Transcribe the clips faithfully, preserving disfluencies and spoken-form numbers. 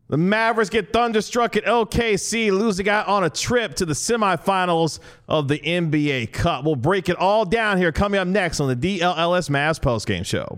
The Mavericks get thunderstruck at O K C, losing out on a trip to the semifinals of the N B A Cup. We'll break it all down here coming up next on the D L L S Mavs postgame show.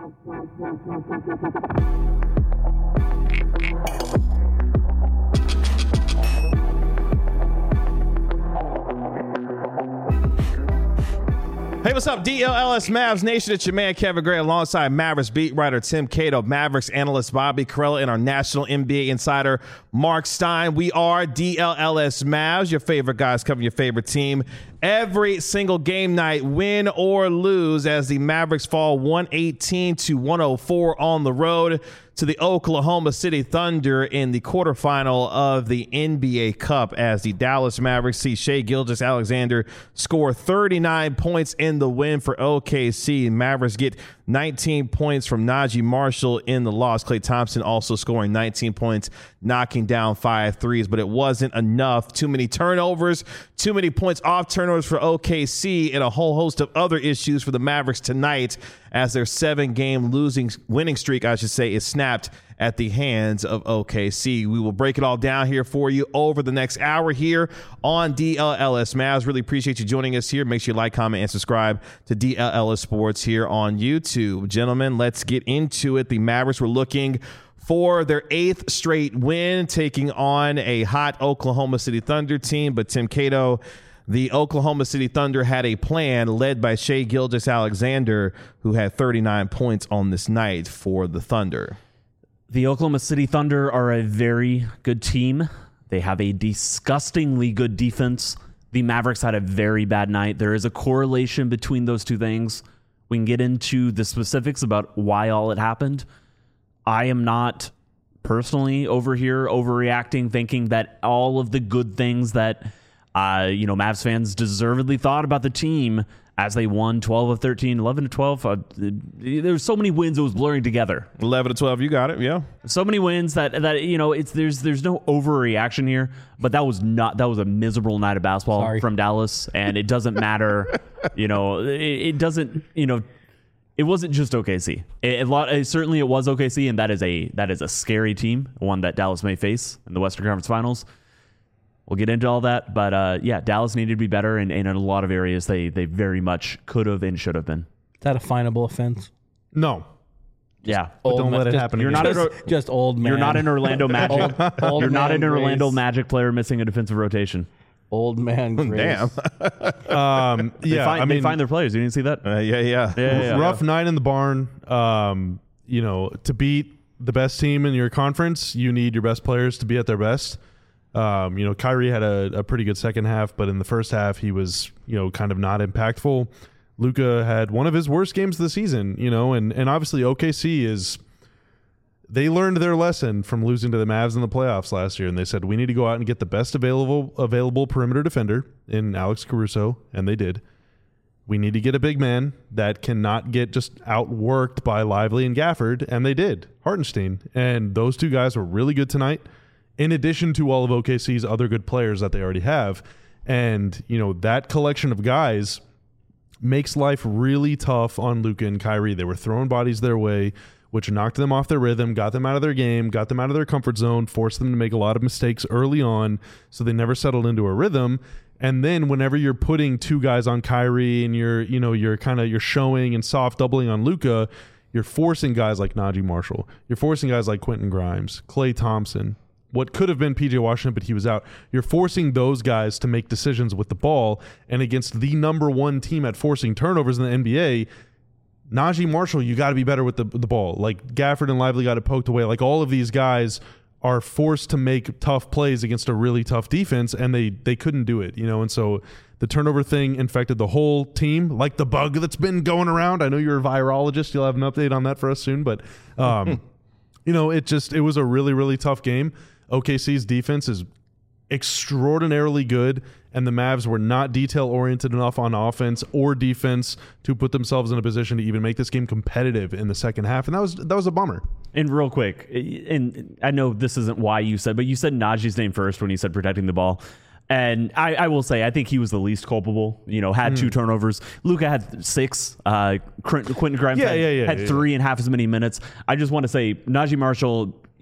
Hey, what's up, D L L S Mavs Nation? It's your man, Kevin Gray, alongside Mavericks beat writer Tim Cato, Mavericks analyst Bobby Karalla, and our national N B A insider, Mark Stein. We are D L L S Mavs, your favorite guys covering your favorite team every single game night, win or lose, as the Mavericks fall one eighteen to one oh four on the road to the Oklahoma City Thunder in the quarterfinal of the N B A Cup, as the Dallas Mavericks see Shai Gilgeous-Alexander score thirty-nine points in the win for O K C. Mavericks get nineteen points from Najee Marshall in the loss. Klay Thompson also scoring nineteen points, knocking down five threes, but it wasn't enough. Too many turnovers, too many points off turnovers for O K C, and a whole host of other issues for the Mavericks tonight, as their seven-game losing winning streak, I should say, is snapped at the hands of O K C. We will break it all down here for you over the next hour here on D L L S Mavs. Really appreciate you joining us here. Make sure you like, comment, and subscribe to D L L S Sports here on YouTube. Gentlemen, let's get into it. The Mavericks were looking for their eighth straight win, taking on a hot Oklahoma City Thunder team, but Tim Cato, the Oklahoma City Thunder had a plan led by Shai Gilgeous-Alexander, who had thirty-nine points on this night for the Thunder. The Oklahoma City Thunder are a very good team. They have a disgustingly good defense. The Mavericks had a very bad night. There is a correlation between those two things. We can get into the specifics about why all it happened. I am not personally over here overreacting, thinking that all of the good things that Uh, you know, Mavs fans deservedly thought about the team as they won twelve of thirteen, eleven to twelve. Uh, there were so many wins, it was blurring together. eleven to twelve, you got it, yeah. So many wins that, that you know, it's there's there's no overreaction here, but that was not, that was a miserable night of basketball Sorry. from Dallas, and it doesn't matter, you know, it, it doesn't, you know, it wasn't just O K C. It, it, it, certainly it was O K C, and that is a that is a scary team, one that Dallas may face in the Western Conference Finals. We'll get into all that, but uh, yeah, Dallas needed to be better, and, and in a lot of areas they they very much could have and should have been. Is that a finable offense? No. Yeah, but don't ma- let it just, happen. You're again. not just, a, just old man. You're not an Orlando Magic. old, old you're not an man Orlando Grace. Magic player missing a defensive rotation. Old man. Grace. Damn. Um, They yeah, find, I mean, they find their players. You didn't see that? Uh, yeah, yeah. Yeah, yeah, yeah. rough night in the barn. Um, you know, to beat the best team in your conference, you need your best players to be at their best. Um, you know, Kyrie had a, a pretty good second half, but in the first half, he was, you know, kind of not impactful. Luka had one of his worst games of the season, you know, and, and obviously O K C is, they learned their lesson from losing to the Mavs in the playoffs last year, and they said, we need to go out and get the best available available perimeter defender in Alex Caruso, and they did. We need to get a big man that cannot get just outworked by Lively and Gafford, and they did, Hartenstein. And those two guys were really good tonight, in addition to all of O K C's other good players that they already have. And, you know, that collection of guys makes life really tough on Luka and Kyrie. They were throwing bodies their way, which knocked them off their rhythm, got them out of their game, got them out of their comfort zone, forced them to make a lot of mistakes early on, so they never settled into a rhythm. And then whenever you're putting two guys on Kyrie and you're, you know, you're kind of you're showing and soft doubling on Luka, you're forcing guys like Najee Marshall. You're forcing guys like Quentin Grimes, Klay Thompson, what could have been P J Washington, but he was out. You're forcing those guys to make decisions with the ball, and against the number one team at forcing turnovers in the N B A, Najee Marshall, you got to be better with the the ball. Like Gafford and Lively got it poked away. Like all of these guys are forced to make tough plays against a really tough defense, and they they couldn't do it, you know. And so the turnover thing infected the whole team, like the bug that's been going around. I know you're a virologist; you'll have an update on that for us soon. But um, you know, it just it was a really really tough game. O K C's defense is extraordinarily good, and the Mavs were not detail-oriented enough on offense or defense to put themselves in a position to even make this game competitive in the second half, and that was that was a bummer. And real quick, and I know this isn't why you said, but you said Najee's name first when you said protecting the ball. And I, I will say, I think he was the least culpable. You know, had mm. two turnovers. Luka had six. Uh, Quentin Grimes yeah, had, yeah, yeah, had yeah, three yeah. and half as many minutes. I just want to say, Najee Marshall,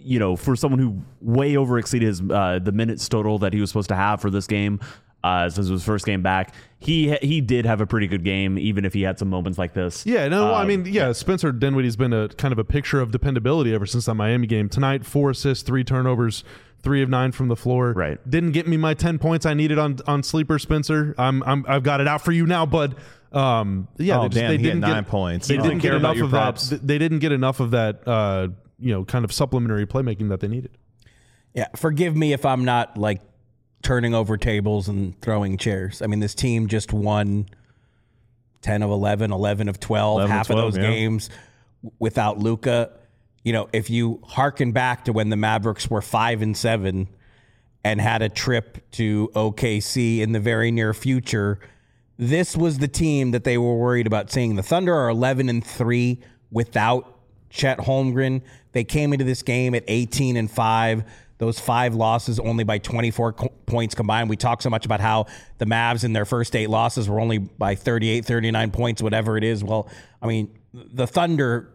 you know, for someone who way over exceeded his uh, the minutes total that he was supposed to have for this game, uh, since it was his first game back, he he did have a pretty good game, even if he had some moments like this. Yeah, no, Um, I mean, yeah, Spencer Dinwiddie's been a kind of a picture of dependability ever since that Miami game. Tonight, four assists, three turnovers, three of nine from the floor. Right. Didn't get me my ten points I needed on on sleeper, Spencer. I'm, I'm I've got it out for you now, bud. Um, yeah, Oh, they, just, damn, they he had didn't nine get, points. They He didn't didn't get care about enough your of props. that. They didn't get enough of that. Uh, you know, kind of supplementary playmaking that they needed. Yeah, forgive me if I'm not like turning over tables and throwing chairs. I mean, this team just won ten of eleven, eleven of twelve, eleven of half twelve, of those yeah. games without Luka. You know, if you hearken back to when the Mavericks were five and seven and had a trip to O K C in the very near future, this was the team that they were worried about seeing. The Thunder are eleven and three without Chet Holmgren. They came into this game at eighteen and five. Those five losses only by twenty-four co- points combined. We talk so much about how the Mavs in their first eight losses were only by thirty-eight, thirty-nine points, whatever it is. Well, I mean, the Thunder,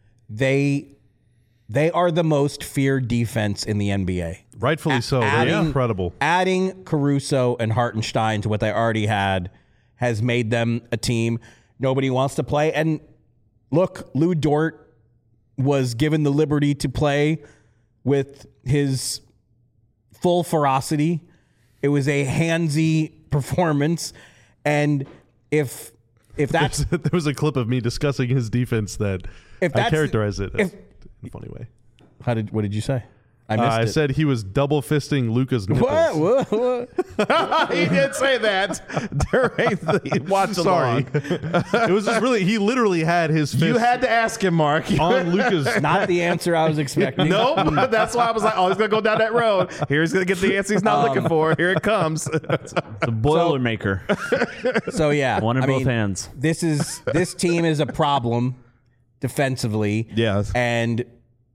they they are the most feared defense in the N B A. Rightfully so. They're adding- incredible. Adding Caruso and Hartenstein to what they already had has made them a team nobody wants to play. And look, Lou Dort was given the liberty to play with his full ferocity. It was a handsy performance. And if if that's there was a clip of me discussing his defense that If I that's- characterized it if- in a funny way. how did what did you say? I Uh, missed I it. said he was double fisting Luca's nipples. What? What? What? He did say that during the watch Sorry. along. It was just really, he literally had his fist You had to ask him, Mark. on Luca's. Not the answer I was expecting. Nope. That's why I was like, oh, he's going to go down that road. Here's going to get the answer he's not looking for. Here it comes. The Boilermaker. So yeah, One in I both mean, hands. This is this team is a problem defensively. Yes. And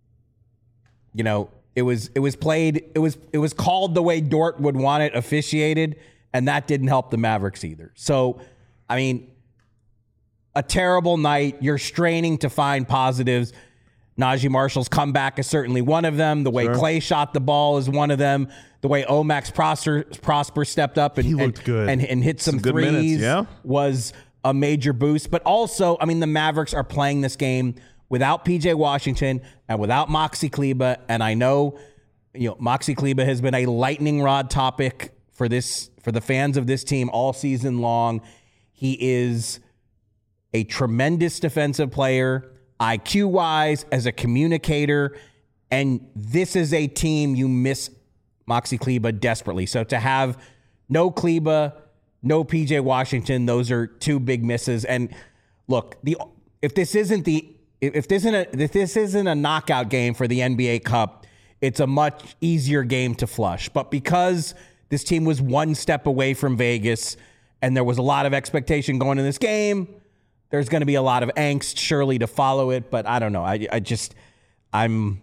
you know, it was it was played it was it was called the way Dort would want it officiated, and that didn't help the Mavericks either. So, I mean, a terrible night. You're straining to find positives. Najee Marshall's comeback is certainly one of them. The way Sure. Clay shot the ball is one of them. The way Omax Prosper, Prosper stepped up and, He looked and, good. and, and hit some, Some good threes minutes, yeah. was a major boost. But also, I mean, the Mavericks are playing this game without P J Washington and without Moxie Kleba. And I know, you know, Moxie Kleba has been a lightning rod topic for this for the fans of this team all season long. He is a tremendous defensive player, I Q-wise, as a communicator, and this is a team you miss Moxie Kleba desperately. So to have no Kleba, no P J Washington, those are two big misses. And look, the if this isn't the if this isn't a if this isn't a knockout game for the N B A Cup, it's a much easier game to flush. But because this team was one step away from Vegas and there was a lot of expectation going in this game, there's going to be a lot of angst surely to follow it. But I don't know. I, I just, I'm,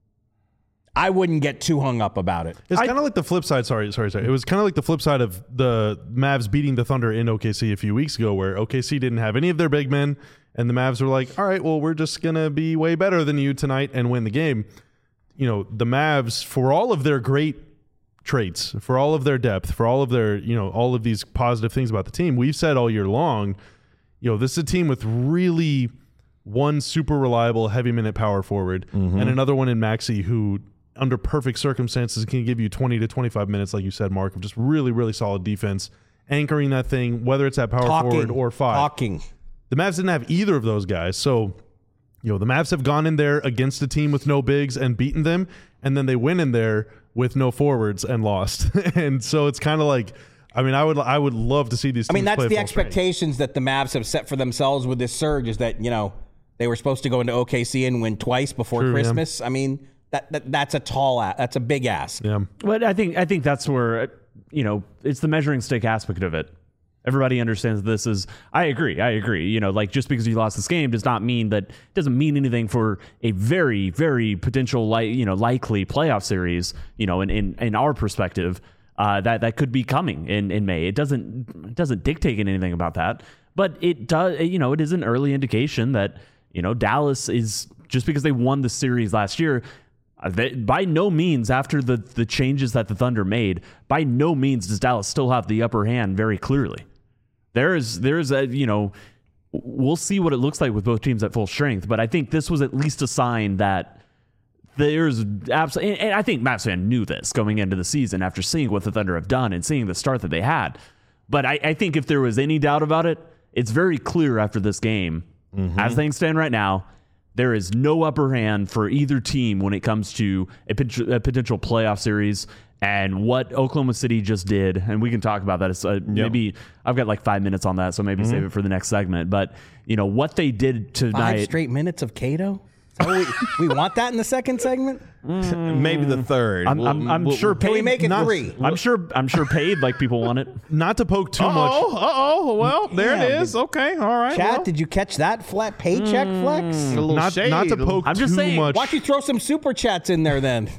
I wouldn't get too hung up about it. It's kind of like the flip side. Sorry, sorry, sorry. It was kind of like the flip side of the Mavs beating the Thunder in O K C a few weeks ago, where O K C didn't have any of their big men, and the Mavs were like, "All right, well, we're just gonna be way better than you tonight and win the game." You know, the Mavs, for all of their great traits, for all of their depth, for all of their, you know, all of these positive things about the team, we've said all year long, you know, this is a team with really one super reliable heavy minute power forward and another one in Maxey who, under perfect circumstances, can give you twenty to twenty-five minutes, like you said, Mark, of just really, really solid defense, anchoring that thing, whether it's at power Talking, forward or five. talking. The Mavs didn't have either of those guys. So, you know, the Mavs have gone in there against a team with no bigs and beaten them, and then they went in there with no forwards and lost. And so it's kind of like, I mean, I would I would love to see these teams I mean, that's play the full strength. expectations that the Mavs have set for themselves with this surge is that, you know, they were supposed to go into O K C and win twice before True, yeah. Christmas. I mean, that, that that's a tall ass. That's a big ass. Yeah. But I think I think that's where, you know, it's the measuring stick aspect of it. Everybody understands this is, I agree, I agree. You know, like just because you lost this game does not mean that, doesn't mean anything for a very, very potential, like, you know, likely playoff series, you know, in, in, in our perspective, uh, that, that could be coming in, in May. It doesn't, it doesn't dictate anything about that, but it does, you know, it is an early indication that, you know, Dallas is, just because they won the series last year, Uh, they, by no means, after the, the changes that the Thunder made, by no means does Dallas still have the upper hand very clearly. There is, there is a, you know, we'll see what it looks like with both teams at full strength, but I think this was at least a sign that there's absolutely, and I think Mavs fan knew this going into the season after seeing what the Thunder have done and seeing the start that they had. But I, I think if there was any doubt about it, it's very clear after this game, mm-hmm. as things stand right now, there is no upper hand for either team when it comes to a, a potential playoff series. And what Oklahoma City just did, and we can talk about that. It's, uh, yep. Maybe I've got like five minutes on that, so maybe mm-hmm. save it for the next segment. But you know what they did tonight. Five straight minutes of Cato. We, we want that in the second segment. Mm. Maybe the third. I'm, we'll, I'm, I'm we'll, sure. Can paid, we make it not, three? I'm sure. I'm sure paid like people want it. Not to poke too uh-oh, much. Uh oh. Well, there yeah, it is. Okay. All right. Chat, well. did you catch that flat paycheck mm, flex? A little Not, shade. not to poke I'm just too saying, much. Why don't you throw some super chats in there then?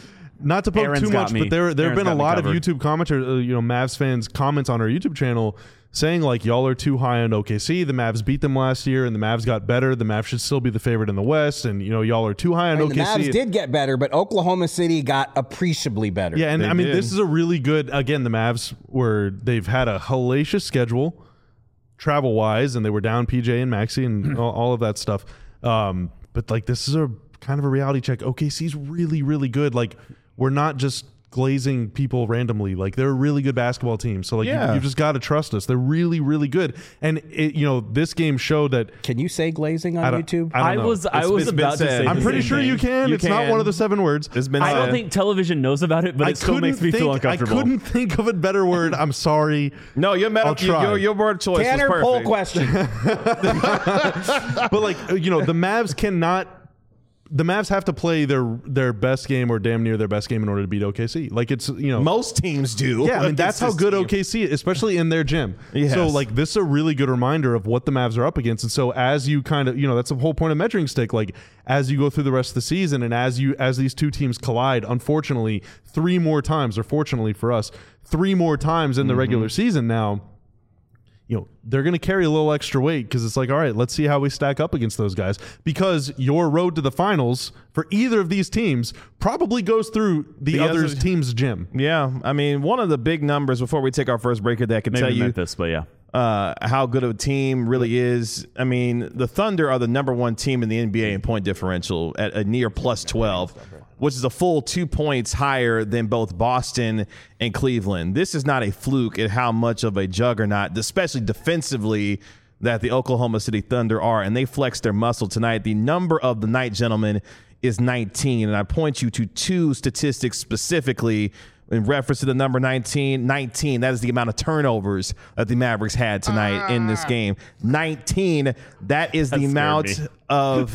Not to poke Aaron's too got much, me. but there there have Aaron's been a got me lot of covered. YouTube commenters, uh, you know, Mavs fans comments on our YouTube channel saying like y'all are too high on O K C. The Mavs beat them last year, and the Mavs got better. The Mavs should still be the favorite in the West, and you know y'all are too high on I mean, O K C. the Mavs did get better, but Oklahoma City got appreciably better. Yeah, and They I mean did. this is a really good. Again, the Mavs were they've had a hellacious schedule, travel wise, and they were down P J and Maxey and all, all of that stuff. Um, but like this is a kind of a reality check. O K C's really really good. Like we're not just glazing people randomly. Like they're a really good basketball team. So like Yeah. you, you've just got to trust us. They're really really good. And it, you know this game showed that. Can you say glazing on I don't- YouTube? I I don't know. was. I It's- was it's been about to said. say. I'm the I'm pretty same sure thing. you can. You it's not can. one of the seven words. It's been I don't said. think television knows about it, but I it still couldn't makes me think, feel I uncomfortable. couldn't think of a better word. I'm sorry. No, your, I'll meta, try. your, your word choice Tanner, was poll perfect. question. But like you know, the Mavs cannot. The Mavs have to play their their best game or damn near their best game in order to beat O K C. Like it's you know Most teams do. yeah, I mean against that's how this good team. O K C is, especially in their gym. Yes. So like this is a really good reminder of what the Mavs are up against. And so as you kind of you know that's the whole point of measuring stick. Like as you go through the rest of the season and as you as these two teams collide, unfortunately three more times, or fortunately for us, three more times in the Mm-hmm. regular season now. You know, they're going to carry a little extra weight because it's like, all right, let's see how we stack up against those guys. Because your road to the finals for either of these teams probably goes through the, The other other- team's gym. Yeah, I mean, one of the big numbers before we take our first break here that can Maybe tell you Memphis, but yeah. uh, how good of a team really is. I mean, the Thunder are the number one team in the N B A in point differential at a near plus twelve, which is a full two points higher than both Boston and Cleveland. This is not a fluke at how much of a juggernaut, especially defensively, that the Oklahoma City Thunder are, and they flexed their muscle tonight. The number of the night, gentlemen, is nineteen, and I point you to two statistics specifically in reference to the number nineteen. nineteen, that is the amount of turnovers that the Mavericks had tonight in this game. nineteen, that is the That scared amount me. of...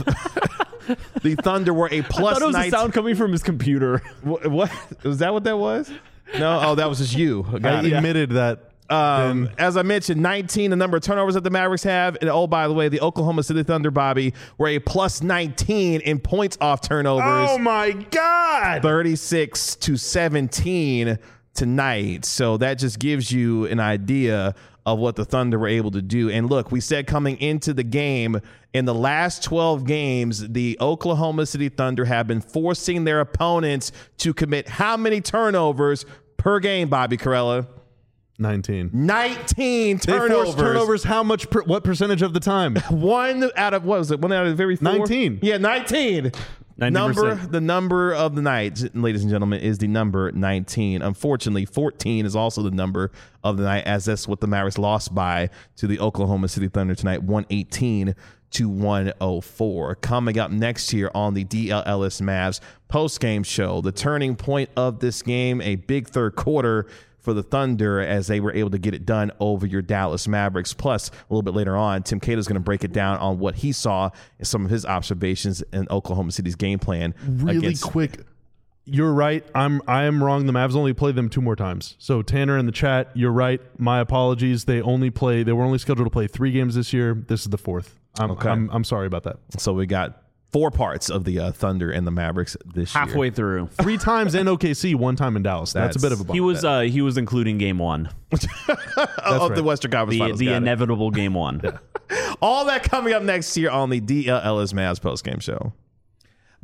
The Thunder were a I plus thought it was nineteen. a sound coming from his computer. What, what was that? What that was? No. Oh, that was just you. Got I it. admitted that. Um, Ben- as I mentioned, nineteen, the number of turnovers that the Mavericks have. And oh, by the way, the Oklahoma City Thunder, Bobby, were a plus nineteen in points off turnovers. oh my God! thirty-six to seventeen tonight. So that just gives you an idea of what the Thunder were able to do. And look, we said coming into the game, in the last twelve games, the Oklahoma City Thunder have been forcing their opponents to commit how many turnovers per game, Bobby Carella? nineteen. nineteen They turnovers. forced turnovers how much, per, what percentage of the time? One out of, what was it? One out of the very four? nineteen. Yeah, nineteen. ninety Number, percent. the number of the night, ladies and gentlemen, is the number nineteen. Unfortunately, fourteen is also the number of the night, as that's what the Mavericks lost by to the Oklahoma City Thunder tonight, one eighteen to one oh four. Coming up next here on the D L L S Mavs post-game show, the turning point of this game, a big third quarter for the Thunder as they were able to get it done over your Dallas Mavericks. Plus, a little bit later on, Tim Cato is going to break it down on what he saw and some of his observations in Oklahoma City's game plan. Really against- quick. You're right. I'm I am wrong. The Mavs only played them two more times. So Tanner in the chat, you're right. My apologies. They only play. They were only scheduled to play three games this year. This is the fourth. I'm Okay. I'm, I'm sorry about that. So we got four parts of the uh, Thunder and the Mavericks this year. Halfway through. Three times in O K C, one time in Dallas. That's, That's- a bit of a bump. He was uh, he was including game one, of right. the Western Conference the Finals. the Got it. inevitable game one. All that coming up next year on the D L L S Mavs postgame show.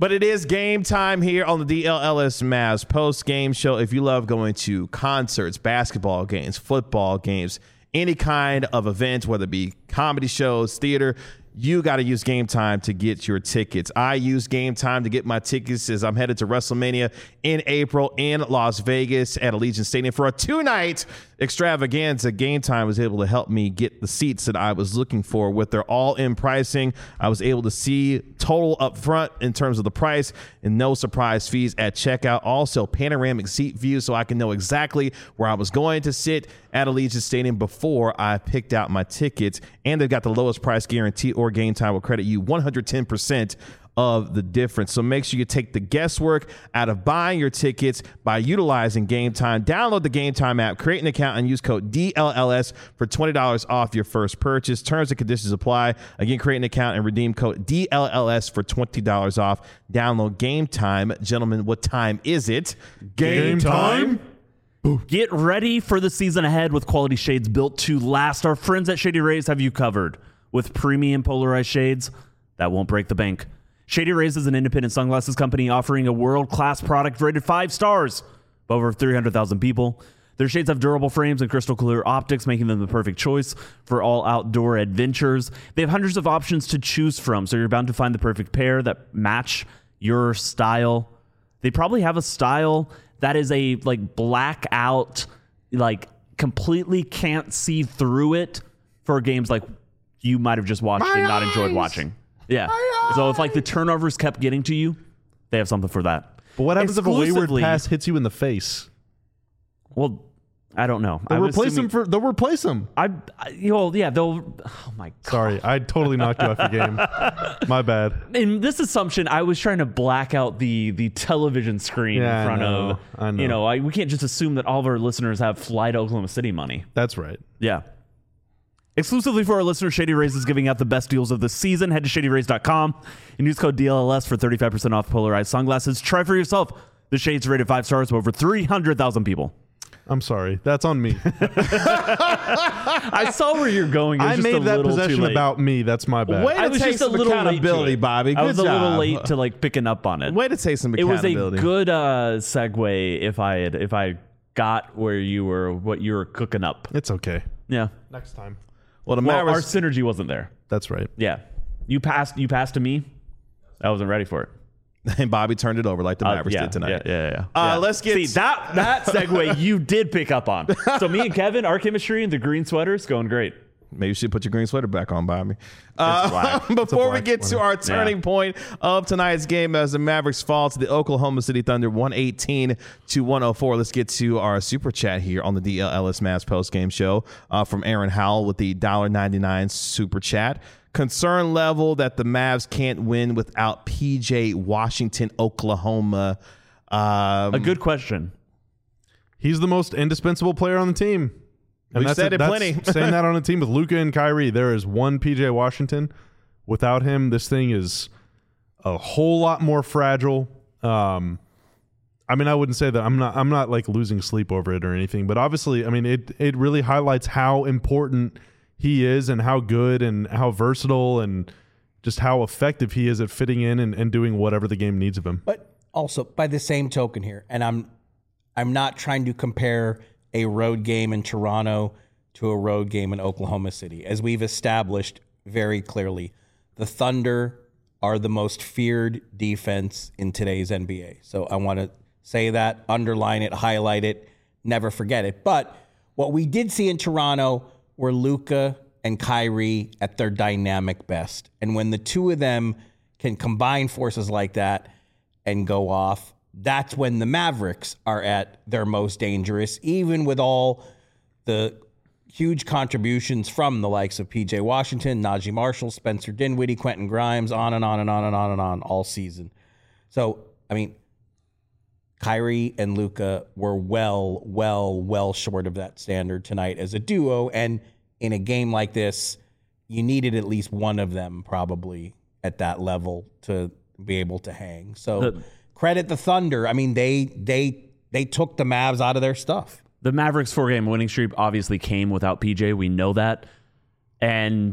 But it is game time here on the D L L S Mavs post-game show. If you love going to concerts, basketball games, football games, any kind of event, whether it be comedy shows, theater, you got to use Game Time to get your tickets. I use Game Time to get my tickets as I'm headed to WrestleMania in April in Las Vegas at Allegiant Stadium for a two-night extravaganza. Game Time was able to help me get the seats that I was looking for with their all-in pricing. I was able to see total up front in terms of the price and no surprise fees at checkout. Also, panoramic seat view so I can know exactly where I was going to sit at Allegiant Stadium before I picked out my tickets. And they've got the lowest price guarantee, or Game Time will credit you one hundred ten percent of the difference. So make sure you take the guesswork out of buying your tickets by utilizing Game Time. Download the Game Time app, create an account, and use code D L L S for twenty dollars off your first purchase. Terms and conditions apply. Again, create an account and redeem code D L L S for twenty dollars off. Download Game Time. Gentlemen, what time is it? Game time? Get ready for the season ahead with quality shades built to last. Our friends at Shady Rays have you covered with premium polarized shades that won't break the bank. Shady Rays is an independent sunglasses company offering a world-class product rated five stars by over three hundred thousand people. Their shades have durable frames and crystal clear optics, making them the perfect choice for all outdoor adventures. They have hundreds of options to choose from, so you're bound to find the perfect pair that match your style. They probably have a style that is a like blackout, like completely can't see through it for games like you might have just watched My and not eyes. enjoyed watching. Yeah. So if like the turnovers kept getting to you, they have something for that. But what happens if a wayward Exclusively- pass hits you in the face? Well, I don't know. They'll I'm replace assuming- him for. They'll replace him. I, I you know, yeah, they'll. Oh my god. Sorry, I totally knocked you off your game. My bad. In this assumption, I was trying to black out the the television screen Yeah, I in front know. of. I know. You know, I, we can't just assume that all of our listeners have fly to Oklahoma City money. That's right. Yeah. Exclusively for our listeners, Shady Rays is giving out the best deals of the season. Head to shady rays dot com and use code D L L S for thirty-five percent off polarized sunglasses. Try for yourself. The shades rated five stars by over three hundred thousand people. I'm sorry. That's on me. I saw where you're going. It was I just a made that little too possession late. about me. That's my bad. Way I to was take just a some little late to accountability, it. Bobby. I Good was a little job. late to like picking up on it. Way to take some It was a accountability. good uh, segue if I had if I got where you were, what you were cooking up. It's okay. Yeah. Next time. Well, the Well, our Mavericks. synergy wasn't there. That's right. Yeah. You passed. You passed to me. I wasn't ready for it. and Bobby turned it over like the Uh, Mavericks yeah, did tonight. Yeah, yeah, yeah. Uh, yeah. let's get- See that that segue you did pick up on. So me and Kevin, our chemistry and the green sweaters going great. Maybe you should put your green sweater back on, Bobby. Uh, black. before we black get to sweater. our turning Yeah. point of tonight's game as the Mavericks fall to the Oklahoma City Thunder one eighteen to one oh four, let's get to our super chat here on the D L L S Mavs post-game show uh, from Aaron Howell with the one dollar ninety-nine super chat. Concern level that the Mavs can't win without P J Washington, Oklahoma. Um, A good question. He's the most indispensable player on the team. We've said it that's plenty. saying that on a team with Luka and Kyrie, there is one P J Washington. Without him, this thing is a whole lot more fragile. Um, I mean, I wouldn't say that I'm not. I'm not like losing sleep over it or anything. But obviously, I mean, it it really highlights how important he is and how good and how versatile and just how effective he is at fitting in and, and doing whatever the game needs of him. But also, by the same token here, and I'm I'm not trying to compare a road game in Toronto to a road game in Oklahoma City. As we've established very clearly, the Thunder are the most feared defense in today's N B A. So I want to say that, underline it, highlight it, never forget it. But what we did see in Toronto were Luka and Kyrie at their dynamic best. And when the two of them can combine forces like that and go off, that's when the Mavericks are at their most dangerous, even with all the huge contributions from the likes of P J Washington, Najee Marshall, Spencer Dinwiddie, Quentin Grimes, on and on and on and on and on all season. So, I mean, Kyrie and Luka were well, well, well short of that standard tonight as a duo. And in a game like this, you needed at least one of them probably at that level to be able to hang. So The- credit the Thunder. I mean, they they they took the Mavs out of their stuff. The Mavericks four-game winning streak obviously came without P J. We know that. And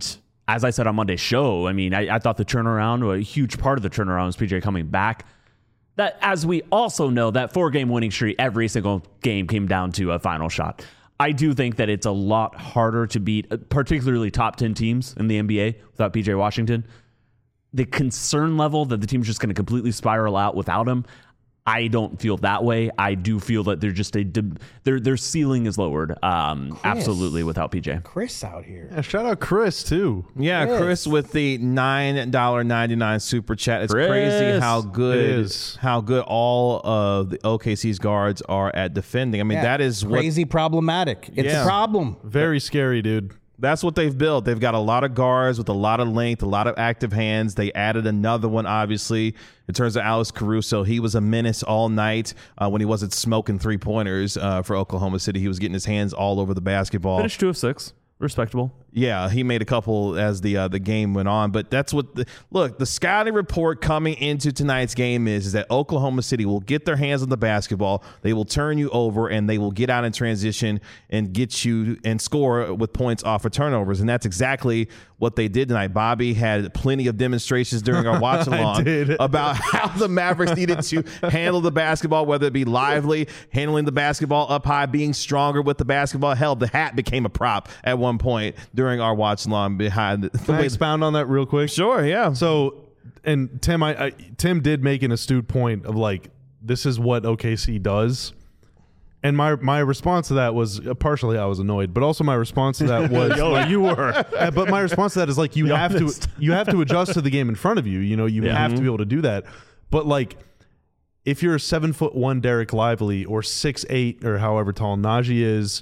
as I said on Monday's show, I mean, I, I thought the turnaround, a huge part of the turnaround was P J coming back. That, as we also know, that four-game winning streak, every single game came down to a final shot. I do think that it's a lot harder to beat, particularly top ten teams in the N B A without P J Washington. The concern level that the team's just going to completely spiral out without him, I don't feel that way. I do feel that they're just a their their ceiling is lowered. Um, absolutely without P J. Chris out here. Yeah, shout out Chris too. Yeah, Chris, Chris with the nine dollar ninety nine super chat. It's Chris. crazy how good It is. how good all of the O K C's guards are at defending. I mean, Yeah, that is what crazy problematic. It's Yeah. a problem. Very scary, dude. That's what they've built. They've got a lot of guards with a lot of length, a lot of active hands. They added another one, obviously, in terms of Alex Caruso. He was a menace all night uh, when he wasn't smoking three-pointers uh, for Oklahoma City. He was getting his hands all over the basketball. Finished two of six. Respectable. Yeah, he made a couple as the uh, the game went on, but that's what the look. The scouting report coming into tonight's game is, is that Oklahoma City will get their hands on the basketball, they will turn you over, and they will get out in transition and get you and score with points off of turnovers, and that's exactly what they did tonight. Bobby had plenty of demonstrations during our watch along about how the Mavericks needed to handle the basketball, whether it be lively, handling the basketball up high, being stronger with the basketball. Hell, the hat became a prop at one point during our watch along behind the, the Can I way. expound on that real quick? Sure, yeah. So, and Tim, I, I Tim did make an astute point of like, this is what O K C does. And my my response to that was uh, partially I was annoyed, but also my response to that was Yo, you were. Uh, but my response to that is like you Be have honest. to you have to adjust to the game in front of you. You know, you Yeah. have to be able to do that. But like, if you're a seven foot one Derek Lively or six eight or however tall Najee is,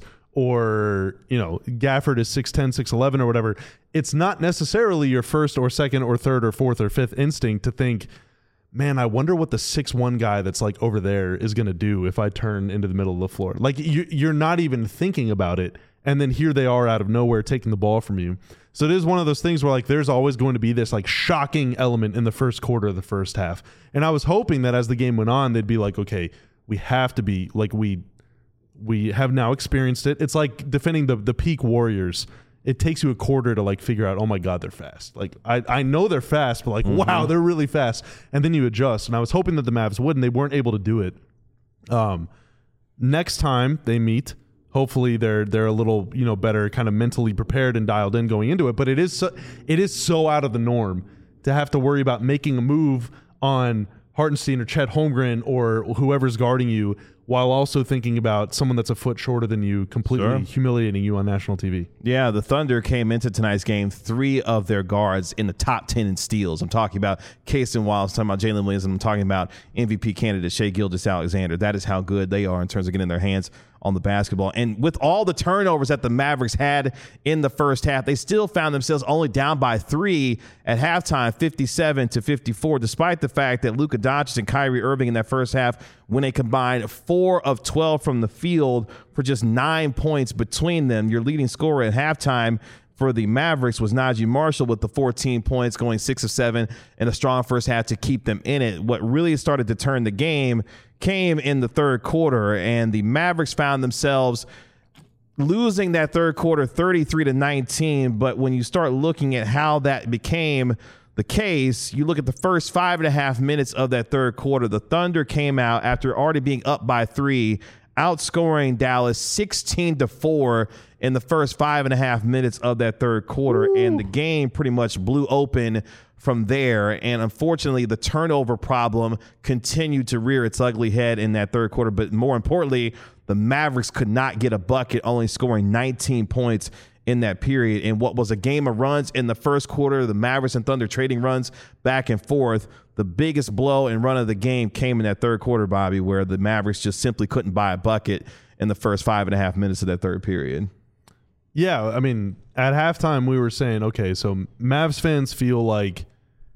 or you know Gafford is six ten, six eleven or whatever, it's not necessarily your first or second or third or fourth or fifth instinct to think, man, I wonder what the six one guy that's like over there is going to do if I turn into the middle of the floor. Like you, you're not even thinking about it. And then here they are out of nowhere taking the ball from you. So it is one of those things where like there's always going to be this like shocking element in the first quarter of the first half. And I was hoping that as the game went on, they'd be like, okay, we have to be like we we have now experienced it. It's like defending the the peak Warriors. It takes you a quarter to like figure out, oh my God, they're fast. Like I, I know they're fast, but like, mm-hmm. wow, they're really fast. And then you adjust. And I was hoping that the Mavs would, and they weren't able to do it. Um, next time they meet, hopefully they're they're a little, you know, better kind of mentally prepared and dialed in going into it. But it is so, it is so out of the norm to have to worry about making a move on Hartenstein or Chet Holmgren or whoever's guarding you, while also thinking about someone that's a foot shorter than you, completely Sure. humiliating you on national T V. Yeah, the Thunder came into tonight's game, three of their guards in the top ten in steals. I'm talking about Casey Wiles, I'm talking about Jalen Williams, and I'm talking about M V P candidate Shai Gilgeous-Alexander. That is how good they are in terms of getting their hands on the basketball. And with all the turnovers that the Mavericks had in the first half, they still found themselves only down by three at halftime, fifty-seven to fifty-four, despite the fact that Luka Doncic and Kyrie Irving in that first half, when they combined four of twelve from the field for just nine points between them. Your leading scorer at halftime for the Mavericks was Najee Marshall with the fourteen points, going six of seven in a strong first half to keep them in it. What really started to turn the game came in the third quarter, and the Mavericks found themselves losing that third quarter thirty-three to nineteen. But when you start looking at how that became the case, you look at the first five and a half minutes of that third quarter, the Thunder came out after already being up by three, outscoring Dallas sixteen to four in the first five and a half minutes of that third quarter. Ooh. And the game pretty much blew open from there. And unfortunately, the turnover problem continued to rear its ugly head in that third quarter. But more importantly, the Mavericks could not get a bucket, only scoring nineteen points in that period. And what was a game of runs in the first quarter, the Mavericks and Thunder trading runs back and forth, the biggest blow and run of the game came in that third quarter, Bobby, where the Mavericks just simply couldn't buy a bucket in the first five and a half minutes of that third period. Yeah, I mean, at halftime we were saying, okay, so Mavs fans feel like,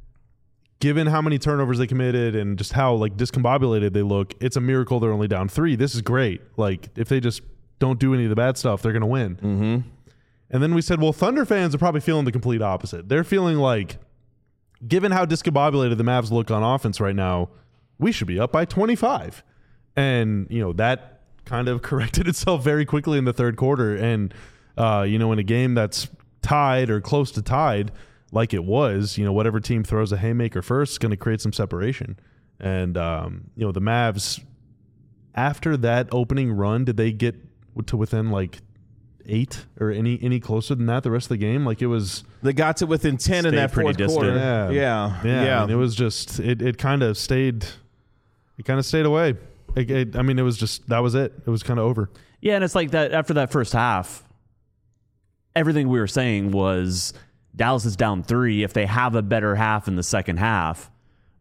given how many turnovers they committed and just how like discombobulated they look, it's a miracle they're only down three. This is great. Like, if they just don't do any of the bad stuff, they're going to win. Mm-hmm. And then we said, well, Thunder fans are probably feeling the complete opposite. They're feeling like, given how discombobulated the Mavs look on offense right now, we should be up by twenty-five. And, you know, that kind of corrected itself very quickly in the third quarter. And, uh, you know, in a game that's tied or close to tied like it was, you know, whatever team throws a haymaker first is going to create some separation. And, um, you know, the Mavs, after that opening run, did they get to within like eight or any any closer than that the rest of the game? Like it was... They got to within ten in that fourth quarter. Yeah. Yeah. Yeah. yeah. I mean, it was just, it, it kind of stayed, it kind of stayed away. It, it, I mean, it was just, that was it. It was kind of over. Yeah, and it's like that after that first half, everything we were saying was Dallas is down three. If they have a better half in the second half,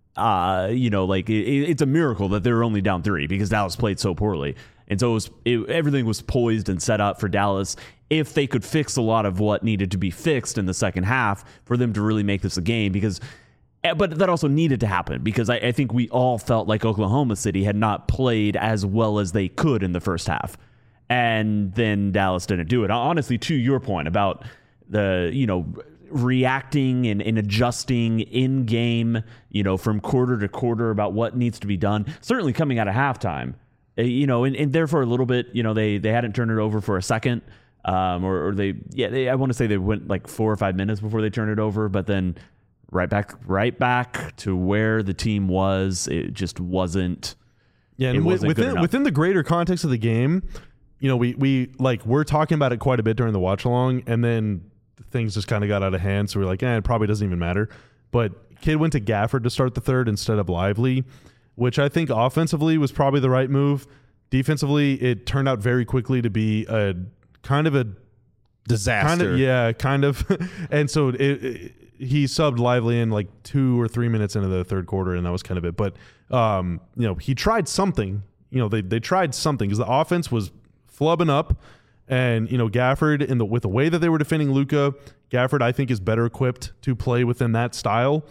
uh, you know, like it, it's a miracle that they're only down three because Dallas played so poorly. And so it was, it, everything was poised and set up for Dallas if they could fix a lot of what needed to be fixed in the second half for them to really make this a game. Because, but that also needed to happen because I, I think we all felt like Oklahoma City had not played as well as they could in the first half. And then Dallas didn't do it. Honestly, to your point about the, you know, reacting and, and adjusting in game, you know, from quarter to quarter about what needs to be done, certainly coming out of halftime. You know, and, and there for a little bit, you know, they they hadn't turned it over for a second, um, or, or they, yeah, they, I want to say they went like four or five minutes before they turned it over, but then right back, right back to where the team was. It just wasn't. Yeah, and wasn't within within the greater context of the game, you know, we we like we're talking about it quite a bit during the watch along, and then things just kind of got out of hand. So we're like, eh, it probably doesn't even matter. But Kidd went to Gafford to start the third instead of Lively, which I think offensively was probably the right move. Defensively, it turned out very quickly to be a kind of a disaster. Kind of, yeah, kind of. And so it, it, he subbed Lively in like two or three minutes into the third quarter, and that was kind of it. But, um, you know, he tried something. You know, they they tried something because the offense was flubbing up. And, you know, Gafford, in the with the way that they were defending Luka, Gafford, I think, is better equipped to play within that style.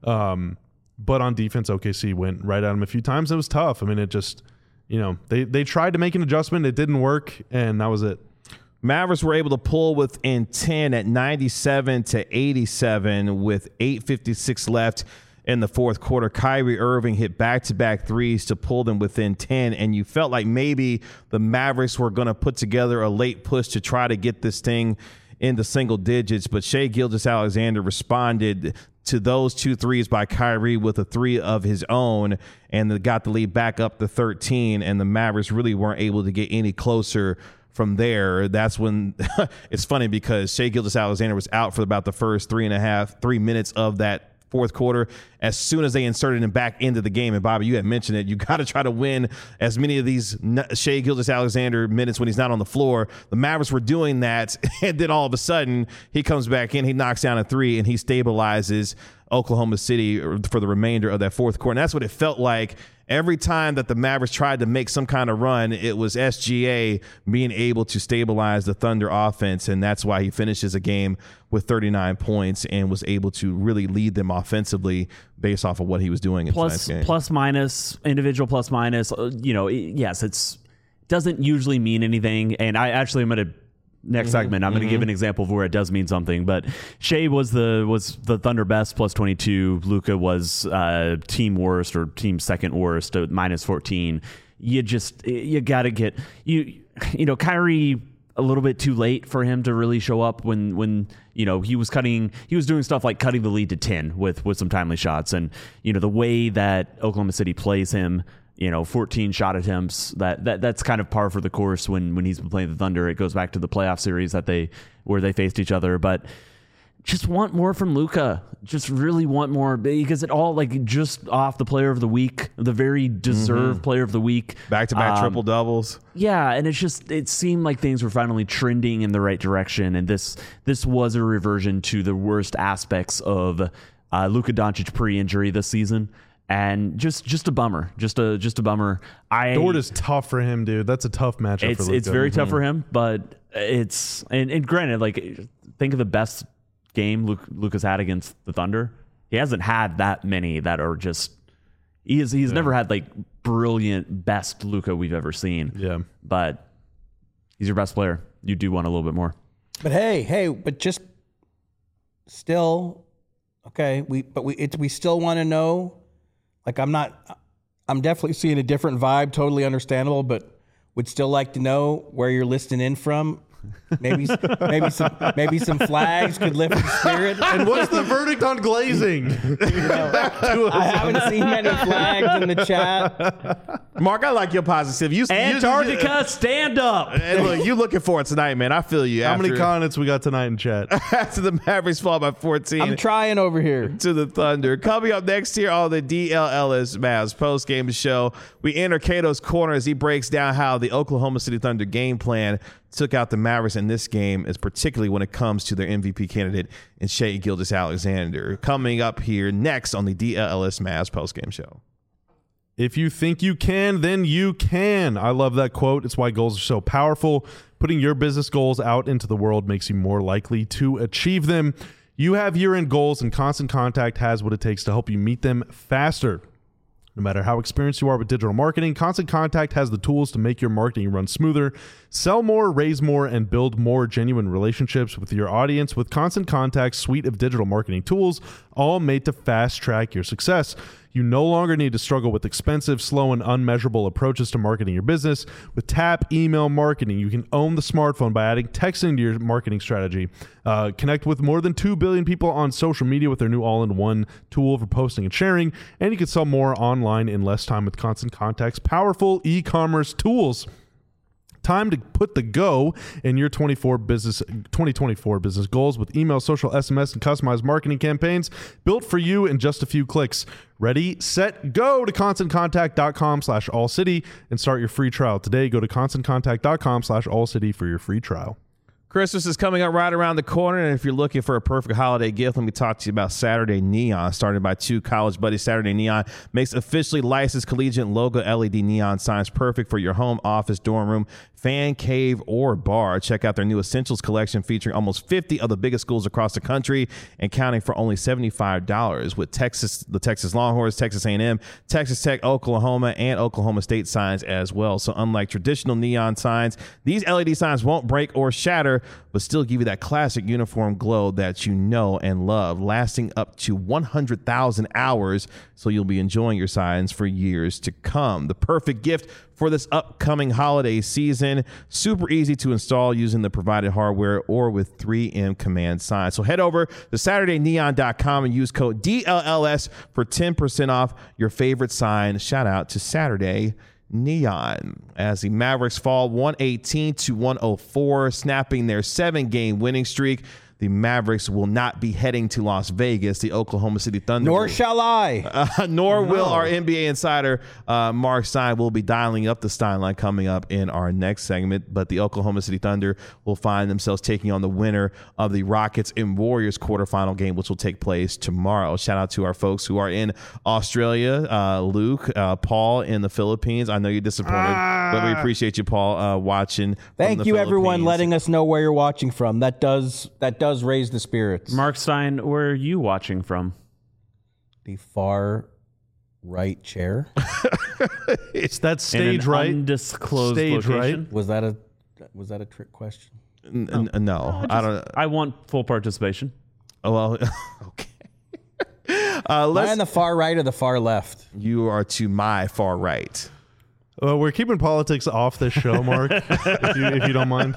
Um But on defense, O K C went right at him a few times. It was tough. I mean, it just, you know, they, they tried to make an adjustment. It didn't work, and that was it. Mavericks were able to pull within ten at ninety-seven to eighty-seven with eight fifty-six left in the fourth quarter. Kyrie Irving hit back-to-back threes to pull them within ten, and you felt like maybe the Mavericks were going to put together a late push to try to get this thing into single digits, but Shai Gilgeous-Alexander responded to those two threes by Kyrie with a three of his own, and they got the lead back up to thirteen, and the Mavericks really weren't able to get any closer from there. That's when it's funny because Shai Gilgeous-Alexander was out for about the first three and a half, three minutes of that fourth quarter. As soon as they inserted him back into the game, and Bobby, you had mentioned it, you got to try to win as many of these Shai Gilgeous-Alexander minutes when he's not on the floor. The Mavericks were doing that, and then all of a sudden he comes back in, he knocks down a three, and he stabilizes Oklahoma City for the remainder of that fourth quarter. And that's what it felt like. Every time that the Mavericks tried to make some kind of run, it was S G A being able to stabilize the Thunder offense, and that's why he finishes a game with thirty-nine points and was able to really lead them offensively based off of what he was doing in plus, tonight's game. Plus minus, individual plus minus, uh, you know, it, yes, it's doesn't usually mean anything, and I actually am going to Next mm-hmm, segment, I'm mm-hmm. going to give an example of where it does mean something. But Shai was the was the Thunder best plus twenty-two. Luka was uh, team worst or team second worst at minus fourteen. You just you got to get you you know Kyrie a little bit too late for him to really show up when when you know he was cutting he was doing stuff like cutting the lead to ten with with some timely shots, and you know the way that Oklahoma City plays him. You know, fourteen shot attempts. That, that that's kind of par for the course when when he's been playing the Thunder. It goes back to the playoff series that they where they faced each other. But just want more from Luka. Just really want more because it all like just off the Player of the Week, the very deserved mm-hmm. Player of the Week, back to back triple doubles. Yeah, and it's just it seemed like things were finally trending in the right direction, and this this was a reversion to the worst aspects of uh, Luka Doncic pre-injury this season. And just, just a bummer, just a, just a bummer. I Dort is tough for him, dude. That's a tough matchup. It's for Luka. It's very mm-hmm. tough for him, but it's and, and granted, like think of the best game Luke, Luka's had against the Thunder. He hasn't had that many that are just. He is, he's yeah. never had like brilliant best Luka we've ever seen. Yeah, but he's your best player. You do want a little bit more. But hey, hey, but just still, okay. We but we it, we still want to know. Like, I'm not, I'm definitely seeing a different vibe, totally understandable, but would still like to know where you're listening in from. Maybe maybe some maybe some flags could lift the spirit. And what's the verdict on glazing? Back to us. I haven't seen many flags in the chat. Mark, I like your positive. You, Antarctica, you, stand up. and look, you looking for it tonight, man. I feel you. How after, many comments we got tonight in chat? after the Mavericks fall by fourteen I'm trying over here. to the Thunder. Coming up next here on the D L L S Mavs post-game show, we enter Cato's corner as he breaks down how the Oklahoma City Thunder game plan took out the Mavericks in this game, is particularly when it comes to their M V P candidate in Shai Gilgeous-Alexander. Coming up here next on the D L L S Mavs post-game show. If you think you can, then you can. I love that quote. It's why goals are so powerful. Putting your business goals out into the world makes you more likely to achieve them. You have year-end goals, and Constant Contact has what it takes to help you meet them faster. No matter how experienced you are with digital marketing, Constant Contact has the tools to make your marketing run smoother, sell more, raise more, and build more genuine relationships with your audience with Constant Contact's suite of digital marketing tools, all made to fast-track your success. You no longer need to struggle with expensive, slow, and unmeasurable approaches to marketing your business. With Tap Email Marketing, you can own the smartphone by adding texting to your marketing strategy. Uh, connect with more than two billion people on social media with their new all-in-one tool for posting and sharing. And you can sell more online in less time with Constant Contact's powerful e-commerce tools. Time to put the go in your twenty-four business, twenty twenty-four business goals with email, social, S M S, and customized marketing campaigns built for you in just a few clicks. Ready, set, go to ConstantContact.com slash AllCity and start your free trial today. Go to ConstantContact.com slash AllCity for your free trial. Christmas is coming up right around the corner, and if you're looking for a perfect holiday gift, let me talk to you about Saturday Neon. Started by two college buddies, Saturday Neon makes officially licensed collegiate logo L E D neon signs perfect for your home, office, dorm room, fan cave, or bar. Check out their new Essentials collection featuring almost fifty of the biggest schools across the country and counting for only seventy-five dollars with Texas, the Texas Longhorns, Texas A and M, Texas Tech, Oklahoma, and Oklahoma State signs as well. So unlike traditional neon signs, these L E D signs won't break or shatter, but still give you that classic uniform glow that you know and love, lasting up to one hundred thousand hours, so you'll be enjoying your signs for years to come. The perfect gift for this upcoming holiday season. Super easy to install using the provided hardware or with three M command signs. So head over to Saturday Neon dot com and use code D L L S for ten percent off your favorite sign. Shout out to Saturday Neon as the Mavericks fall one eighteen to one oh four, snapping their seven-game winning streak. The Mavericks will not be heading to Las Vegas. The Oklahoma City Thunder. Nor will, shall I. Uh, nor will our N B A insider, uh, Mark Stein. Will be dialing up the Stein line coming up in our next segment. But the Oklahoma City Thunder will find themselves taking on the winner of the Rockets and Warriors quarterfinal game, which will take place tomorrow. Shout out to our folks who are in Australia, uh, Luke, uh, Paul in the Philippines. I know you're disappointed, ah. but we appreciate you, Paul, uh, watching. Thank you, everyone, letting us know where you're watching from. That does that does raise the spirits. Mark Stein, where are you watching from? The far right chair. It's that stage In an right. Undisclosed Stage location. right. Was that a was that a trick question? N- n- no, no I, just, I don't. I want full participation. Oh well, okay. Uh, let's, Am I on the far right or the far left? You are to my far right. Well, we're keeping politics off this show, Mark, if, you, if you don't mind.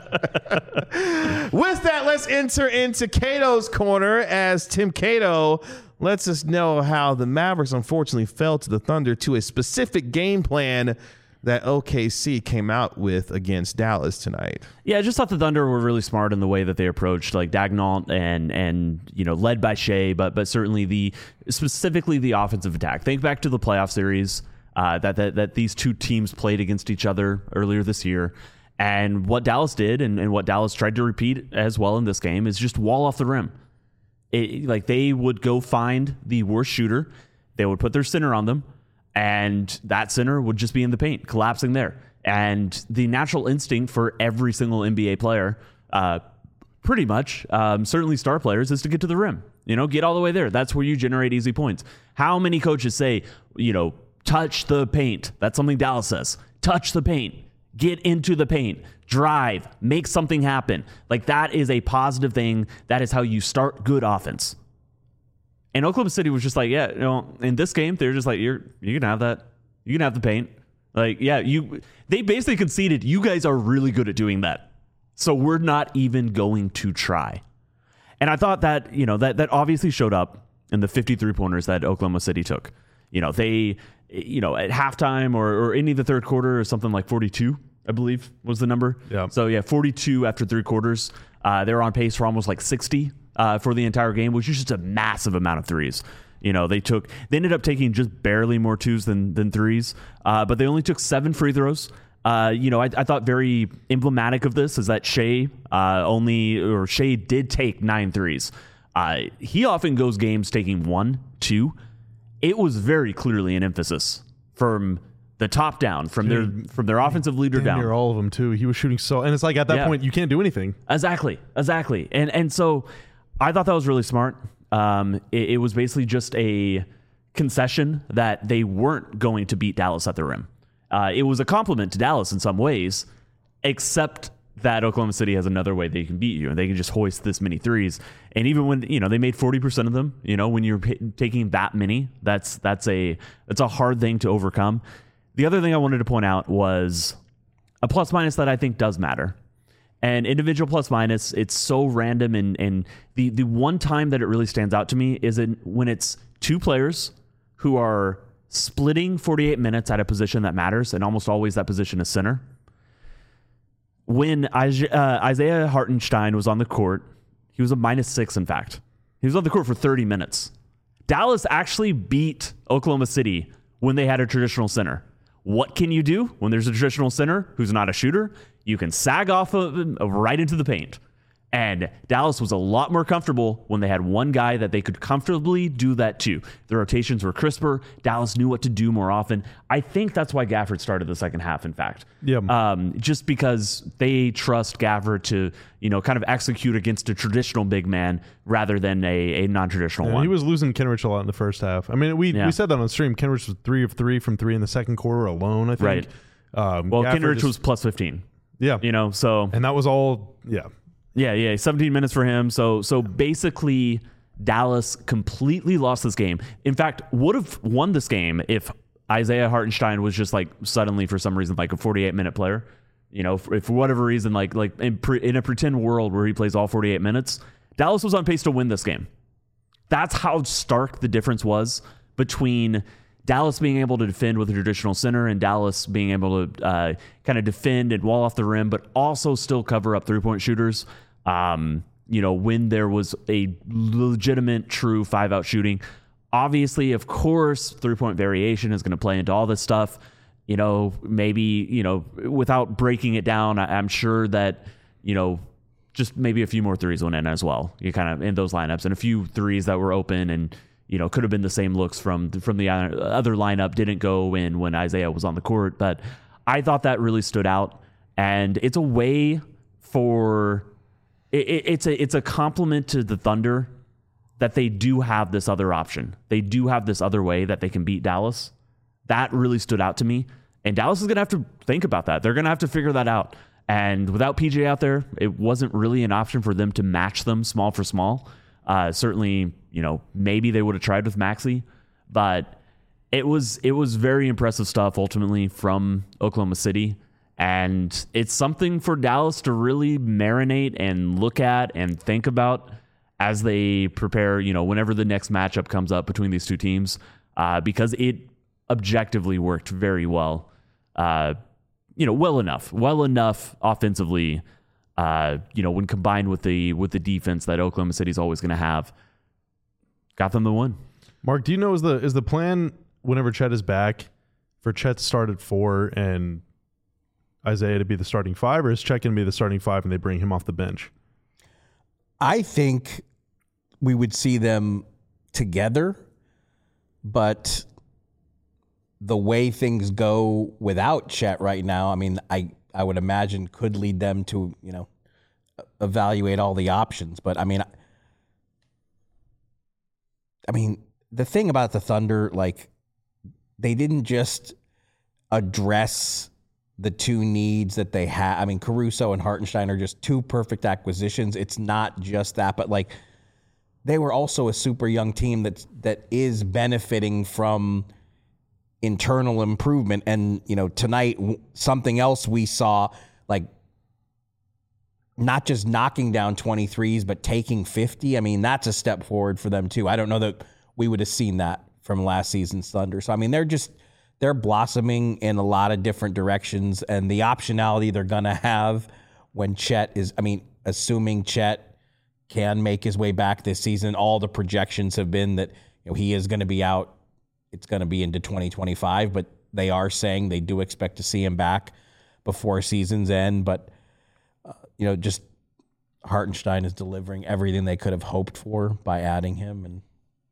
With that, let's enter into Cato's corner as Tim Cato lets us know how the Mavericks unfortunately fell to the Thunder to a specific game plan that O K C came out with against Dallas tonight. Yeah, I just thought the Thunder were really smart in the way that they approached like Dagnall and and you know led by Shai, but but certainly the specifically the offensive attack. Think back to the playoff series uh, that that that these two teams played against each other earlier this year. And what Dallas did and, and what Dallas tried to repeat as well in this game is just wall off the rim. It, like they would go find the worst shooter. They would put their center on them, and that center would just be in the paint, collapsing there. And the natural instinct for every single N B A player, uh, pretty much, um, certainly star players, is to get to the rim. You know, get all the way there. That's where you generate easy points. How many coaches say, you know, touch the paint? That's something Dallas says. Touch the paint. Get into the paint, drive, make something happen. Like that is a positive thing. That is how you start good offense. And Oklahoma City was just like, yeah, you know, in this game, they're just like, you're, you can have that. You can have the paint. Like, yeah, you, they basically conceded, you guys are really good at doing that. So we're not even going to try. And I thought that, you know, that, that obviously showed up in the fifty-three pointers that Oklahoma City took. You know, they, you know, at halftime or, or any of the third quarter or something like forty-two, I believe was the number. Yeah. So yeah, forty-two after three quarters. Uh, they were on pace for almost like sixty uh, for the entire game, which is just a massive amount of threes. You know, they took, they ended up taking just barely more twos than, than threes, uh, but they only took seven free throws. Uh, you know, I, I thought very emblematic of this is that Shea uh, only, or Shea did take nine threes. Uh, he often goes games taking one, two. It was very clearly an emphasis from the top down, from Dude, their from their offensive leader Damn down. near all of them too. He was shooting so, and it's like at that Yeah. point you can't do anything. Exactly, exactly. And and so I thought that was really smart. Um, it, it was basically just a concession that they weren't going to beat Dallas at the rim. Uh, it was a compliment to Dallas in some ways, except that Oklahoma City has another way they can beat you, and they can just hoist this many threes. And even when, you know, they made forty percent of them, you know, when you're p- taking that many, that's that's a that's a hard thing to overcome. The other thing I wanted to point out was a plus minus that I think does matter. And individual plus minus, it's so random, and and the the one time that it really stands out to me is in, when it's two players who are splitting forty-eight minutes at a position that matters, and almost always that position is center. When uh, Isaiah Hartenstein was on the court, he was a minus six, in fact. He was on the court for thirty minutes. Dallas actually beat Oklahoma City when they had a traditional center. What can you do when there's a traditional center who's not a shooter? You can sag off of him right into the paint. And Dallas was a lot more comfortable when they had one guy that they could comfortably do that to. The rotations were crisper. Dallas knew what to do more often. I think that's why Gafford started the second half, in fact. Yeah. Um, just because they trust Gafford to, you know, kind of execute against a traditional big man rather than a, a non-traditional Yeah, one. he was losing Kenrich a lot in the first half. I mean, we, Yeah. we said that on stream. Kenrich was three of three from three in the second quarter alone, I think. Right. Um, well, Gafford Kenrich just- was plus fifteen, yeah. you know, so... And that was all, yeah. Yeah, yeah, seventeen minutes for him. So so basically, Dallas completely lost this game. In fact, would have won this game if Isaiah Hartenstein was just like suddenly, for some reason, like a forty-eight minute player. You know, for, for whatever reason, like like in, pre, in a pretend world where he plays all forty-eight minutes, Dallas was on pace to win this game. That's how stark the difference was between Dallas being able to defend with a traditional center and Dallas being able to uh, kind of defend and wall off the rim, but also still cover up three-point shooters. Um, you know, when there was a legitimate, true five-out shooting. Obviously, of course, three-point variation is going to play into all this stuff. You know, maybe, you know, without breaking it down, I, I'm sure that, you know, just maybe a few more threes went in as well. You kind of in those lineups, and a few threes that were open and, you know, could have been the same looks from from the other lineup didn't go in when Isaiah was on the court. But I thought that really stood out, and it's a way for it, it's a it's a compliment to the Thunder that they do have this other option. They do have this other way that they can beat Dallas. That really stood out to me, and Dallas is going to have to think about that. They're going to have to figure that out. And without P J out there, it wasn't really an option for them to match them small for small. Uh, certainly, you know, maybe they would have tried with Maxey, but it was it was very impressive stuff ultimately from Oklahoma City, and it's something for Dallas to really marinate and look at and think about as they prepare. You know, whenever the next matchup comes up between these two teams, uh, because it objectively worked very well. Uh, you know, well enough, well enough offensively. Uh, you know, when combined with the with the defense that Oklahoma City's always going to have, got them the win. Mark, do you know is the is the plan whenever Chet is back for Chet to start at four and Isaiah to be the starting five, or is Chet going to be the starting five and they bring him off the bench? I think we would see them together, but the way things go without Chet right now, I mean, I, I would imagine could lead them to, you know, evaluate all the options. But I mean, I mean, the thing about the Thunder, like, they didn't just address the two needs that they have. I mean, Caruso and Hartenstein are just two perfect acquisitions. It's not just that, but like, they were also a super young team that that is benefiting from internal improvement. And, you know, tonight, something else we saw, like, not just knocking down twenty-threes, but taking fifty. I mean, that's a step forward for them too. I don't know that we would have seen that from last season's Thunder. So, I mean, they're just, they're blossoming in a lot of different directions, and the optionality they're going to have when Chet is, I mean, assuming Chet can make his way back this season, all the projections have been that, you know, he is going to be out. It's going to be into twenty twenty-five, but they are saying they do expect to see him back before season's end. But, uh, you know, just Hartenstein is delivering everything they could have hoped for by adding him. And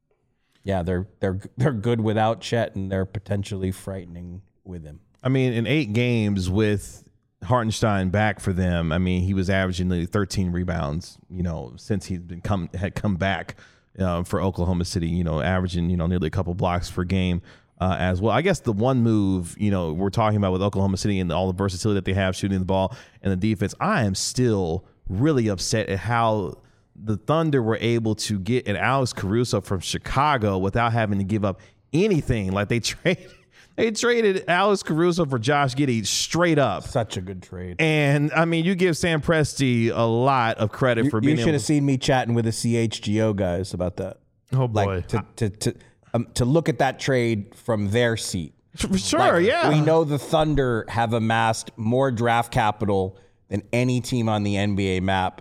yeah, they're they're they're good without Chet, and they're potentially frightening with him. I mean, in eight games with Hartenstein back for them, I mean, he was averaging nearly thirteen rebounds, you know, since he's been come had come back uh, for Oklahoma City, you know, averaging, you know, nearly a couple blocks per game uh, as well. I guess the one move, you know, we're talking about with Oklahoma City and all the versatility that they have shooting the ball and the defense, I am still really upset at how the Thunder were able to get an Alex Caruso from Chicago without having to give up anything. Like they traded, they traded Alex Caruso for Josh Giddey straight up. Such a good trade. And I mean, you give Sam Presti a lot of credit You, for you being should able have seen me chatting with the C H G O guys about that. Oh boy. Like to to to um, to look at that trade from their seat. For sure, Like, yeah. We know the Thunder have amassed more draft capital than any team on the N B A map.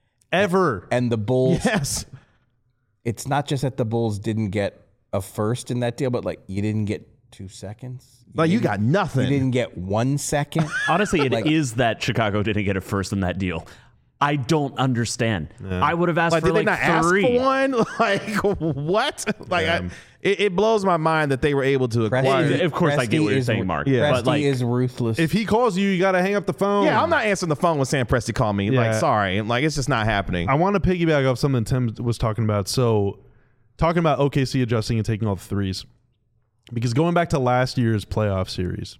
Ever. And the Bulls, Yes. it's not just that the Bulls didn't get a first in that deal, but like you didn't get two seconds. Like you didn't- got nothing. You didn't get one second. Honestly, it is Like- that Chicago didn't get a first in that deal. I don't understand. I would have asked Like, for did like they not three. ask for one? Like, what? Like, I, it, it blows my mind that they were able to acquire. Presti- Of course, I get Presti what you're is- saying, Mark. Yeah. But Presti like, is ruthless. If he calls you, you got to hang up the phone. Yeah, I'm not answering the phone when Sam Presti called me. Like, Yeah. sorry. Like, it's just not happening. I want to piggyback off something Tim was talking about. So, talking about O K C adjusting and taking all the threes, because going back to last year's playoff series,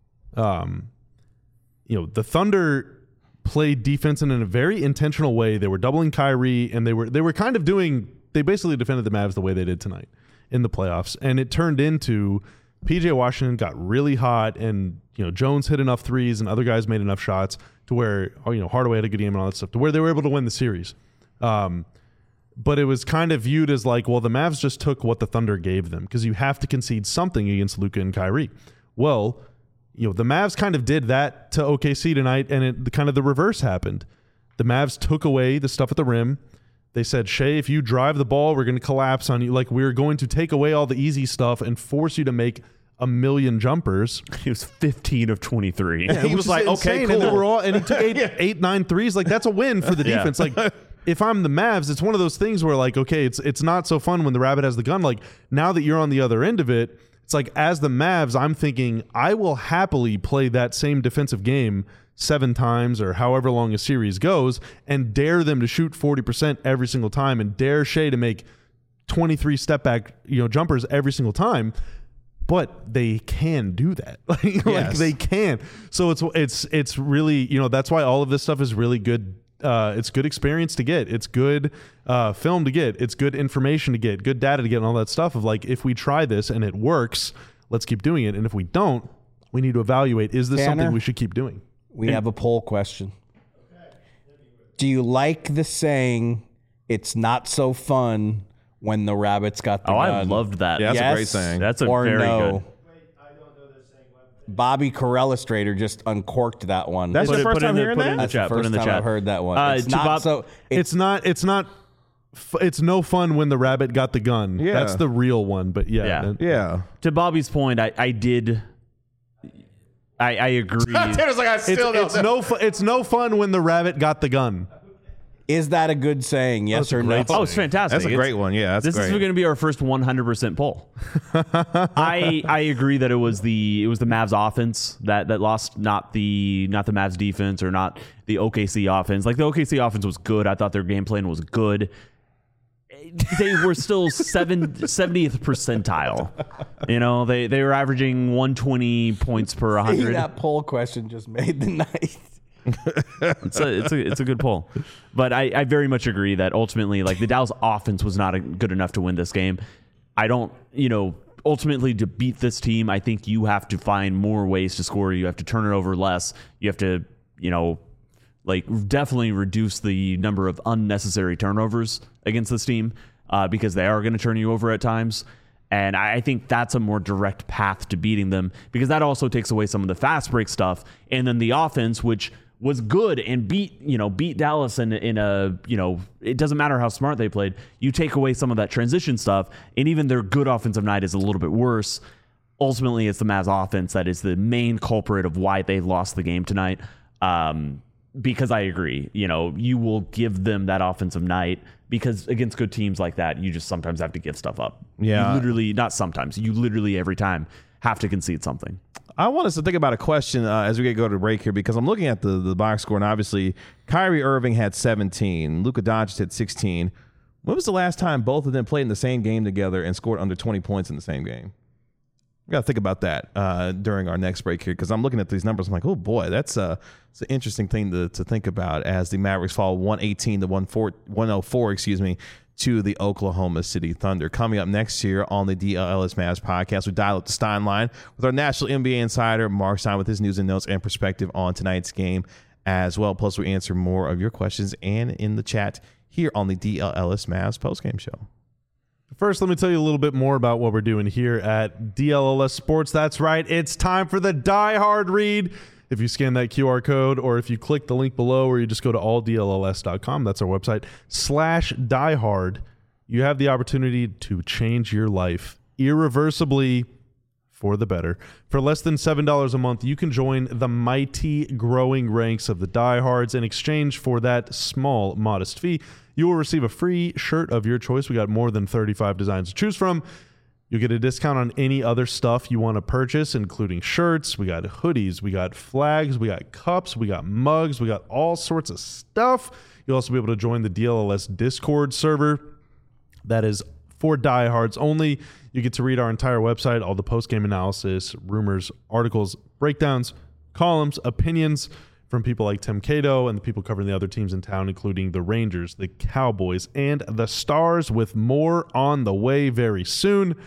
um, you know, the Thunder played defense in a very intentional way. They were doubling Kyrie, and they were they were kind of doing. They basically defended the Mavs the way they did tonight in the playoffs, and it turned into P J Washington got really hot, and you know Jones hit enough threes, and other guys made enough shots to where oh, you know Hardaway had a good game and all that stuff to where they were able to win the series. Um, but it was kind of viewed as like, well, the Mavs just took what the Thunder gave them because you have to concede something against Luka and Kyrie. Well, you know, the Mavs kind of did that to O K C tonight, and it kind of the reverse happened. The Mavs took away the stuff at the rim. They said, Shea, if you drive the ball, we're going to collapse on you. Like, we're going to take away all the easy stuff and force you to make a million jumpers. he was fifteen of twenty-three. He Which was is like, insane. okay, And, they cool. were all, and he took eight, eight, nine threes. Like, that's a win for the Yeah. defense. Like, if I'm the Mavs, it's one of those things where, like, okay, it's it's not so fun when the Rabbit has the gun. Like, now that you're on the other end of it, it's like, as the Mavs, I'm thinking, I will happily play that same defensive game seven times or however long a series goes and dare them to shoot forty percent every single time and dare Shea to make twenty-three step back, you know, jumpers every single time. But they can do that. Like, like Yes. they can. So it's it's it's really, you know, that's why all of this stuff is really good. Uh, it's good experience to get. It's good uh, film to get. It's good information to get. Good data to get, and all that stuff. Of like, if we try this and it works, let's keep doing it. And if we don't, we need to evaluate: is this Tanner? something we should keep doing? We have a poll question. Do you like the saying, it's not so fun when the Rabbits got the Oh, gun? I loved that. Yeah, that's Yes a great saying. That's a or very no? good. Bobby Corellistrator just uncorked that one. That's Put your it- first put it time in the- hearing put it that? in the That's chat, the put it first in the time chat. I've heard that one. Uh, it's to not Bob- so. It's, It's not. It's not. f- It's no fun when the rabbit got the gun. Yeah. That's the real one. But yeah, Yeah. that- Yeah. To Bobby's point, I, I did. I, I agree. Tanner's like, I It's, still don't it's know. no. Fu- it's no fun when the rabbit got the gun. is that a good saying? Yes That's a or no? great Oh, it's fantastic. That's a It's- great one. Yeah, that's this great. is going to be our first one hundred percent poll. I I agree that it was the it was the Mavs offense that that lost, not the not the Mavs defense or not the O K C offense. Like the O K C offense was good. I thought their game plan was good. They were still seven, seventieth percentile. You know, they they were averaging one hundred twenty points per one hundred. That poll question just made the night. It's a it's a it's a good poll, but I, I very much agree that ultimately, like, the Dallas offense was not a, good enough to win this game. I don't, you know, ultimately to beat this team, I think you have to find more ways to score. You have to turn it over less. You have to, you know, Like, definitely reduce the number of unnecessary turnovers against this team uh, because they are going to turn you over at times. And I think that's a more direct path to beating them because that also takes away some of the fast break stuff. And then the offense, which was good and beat, you know, beat Dallas in, in a, you know, it doesn't matter how smart they played. You take away some of that transition stuff, and even their good offensive night is a little bit worse. Ultimately, it's the Mavs offense that is the main culprit of why they lost the game tonight. Um, because I agree, you know, you will give them that offensive night because against good teams like that, you just sometimes have to give stuff up. Yeah. You literally, not sometimes, you literally every time have to concede something. I want us to think about a question uh, as we go to break here because I'm looking at the, the box score, and obviously Kyrie Irving had seventeen. Luka Doncic had sixteen. When was the last time both of them played in the same game together and scored under twenty points in the same game? We got to think about that uh, during our next break here because I'm looking at these numbers. I'm like, oh, boy, that's uh, it's an interesting thing to, to think about as the Mavericks fall one eighteen to one oh four, excuse me, to the Oklahoma City Thunder. Coming up next year on the D L L S Mavs podcast, we dial up the Stein line with our national N B A insider, Mark Stein, with his news and notes and perspective on tonight's game as well. Plus, we answer more of your questions and in the chat here on the D L L S Mavs postgame show. First, let me tell you a little bit more about what we're doing here at D L L S Sports. That's right. It's time for the Die Hard read. If you scan that Q R code or if you click the link below or you just go to all D L L S dot com, that's our website, slash Die Hard, you have the opportunity to change your life irreversibly for the better. For less than seven dollars a month, you can join the mighty growing ranks of the diehards. In exchange for that small, modest fee, you will receive a free shirt of your choice. We got more than thirty-five designs to choose from. You'll get a discount on any other stuff you want to purchase, including shirts. We got hoodies. We got flags. We got cups. We got mugs. We got all sorts of stuff. You'll also be able to join the D L L S Discord server. That is for diehards only. You get to read our entire website, all the post-game analysis, rumors, articles, breakdowns, columns, opinions from people like Tim Cato and the people covering the other teams in town, including the Rangers, the Cowboys, and the Stars, with more on the way very soon.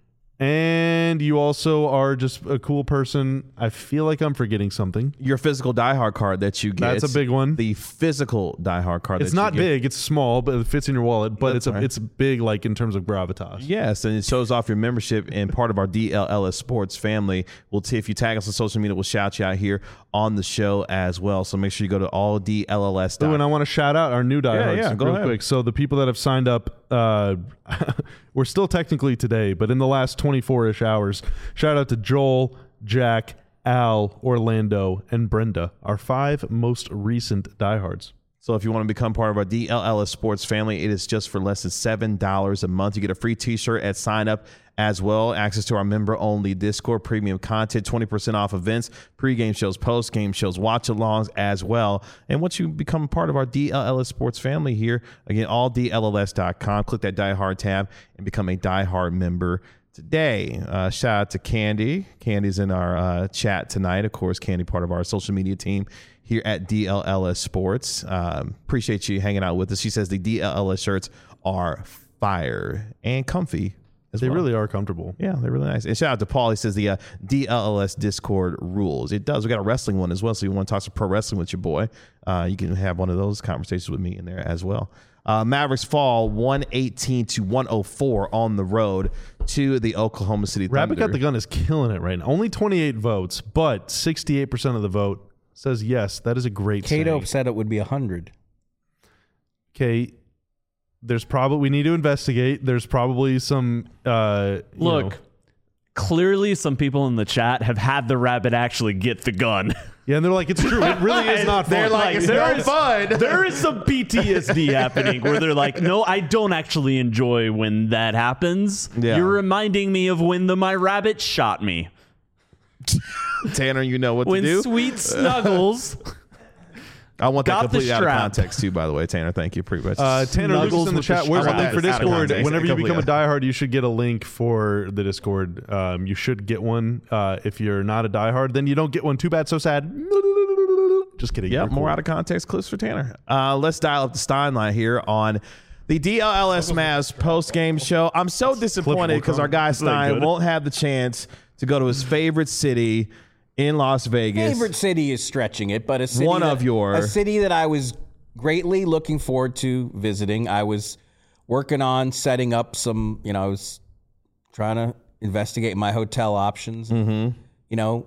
And you also are just a cool person. I feel like I'm forgetting something. Your physical Die Hard card that you get. That's a big one. The physical Die Hard card. It's that not you get. big. It's small, but it fits in your wallet. But That's it's a, right. it's big, like in terms of gravitas. Yes, and it shows off your membership and part of our D L L S Sports family. We'll t- if you tag us on social media, we'll shout you out here on the show as well. So make sure you go to all D L L S. Oh, and I want to shout out our new diehards yeah, go real ahead. quick. So the people that have signed up, uh, we're still technically today, but in the last twenty-four-ish hours, shout out to Joel, Jack, Al, Orlando, and Brenda, our five most recent diehards. So if you want to become part of our D L L S Sports family, it is just for less than seven dollars a month. You get a free t-shirt at sign up as well. Access to our member-only Discord, premium content, twenty percent off events, pregame shows, postgame shows, watch-alongs as well. And once you become part of our D L L S Sports family here, again, all D L L S dot com, click that Die Hard tab and become a Die Hard member today. Uh, shout out to Candy. Candy's in our uh, chat tonight. Of course, Candy, part of our social media team here at D L L S Sports. Um, appreciate you hanging out with us. She says the D L L S shirts are fire and comfy as They well. really are comfortable. Yeah, they're really nice. And shout out to Paul. He says the uh, D L L S Discord rules. It does. We got a wrestling one as well. So you want to talk some pro wrestling with your boy, uh, you can have one of those conversations with me in there as well. Uh, Mavericks fall one eighteen to one oh four on the road to the Oklahoma City Thunder. Rabbit Got the Gun is killing it right now. Only twenty-eight votes, but sixty-eight percent of the vote says yes. That is a great Cato saying. said it would be one hundred. Okay, there's probably, we need to investigate. There's probably some, uh, you Look, know- clearly some people in the chat have had the rabbit actually get the gun. yeah, and they're like, it's true. It really is not fun. They're like, it's there no is- fun. There is some P T S D happening where they're like, no, I don't actually enjoy when that happens. Yeah. You're reminding me of when the my rabbit shot me. Tanner, you know what When to do. Sweet Snuggles I want that got the completely out of strap. context too, by the way, Tanner. Thank you. Pretty much. Uh, Tanner Snuggles Lucas in the with the chat. Where's the strap. link for Out of Discord? context. Whenever you Completely become a out. diehard, you should get a link for the Discord. Um, you should get one. Uh, if you're not a diehard, then you don't get one. Too bad, so sad. Just kidding. Yeah, You're more cool. out of context clips for Tanner. Uh, let's dial up the Stein line here on the D L L S Mavs post-game show. I'm so disappointed because our guy Is that Stein good? won't have the chance to go to his favorite city in Las Vegas. Favorite city is stretching it, but a city One that, of your- a city that I was greatly looking forward to visiting. I was working on setting up some, you know, I was trying to investigate my hotel options. Mm-hmm. You know,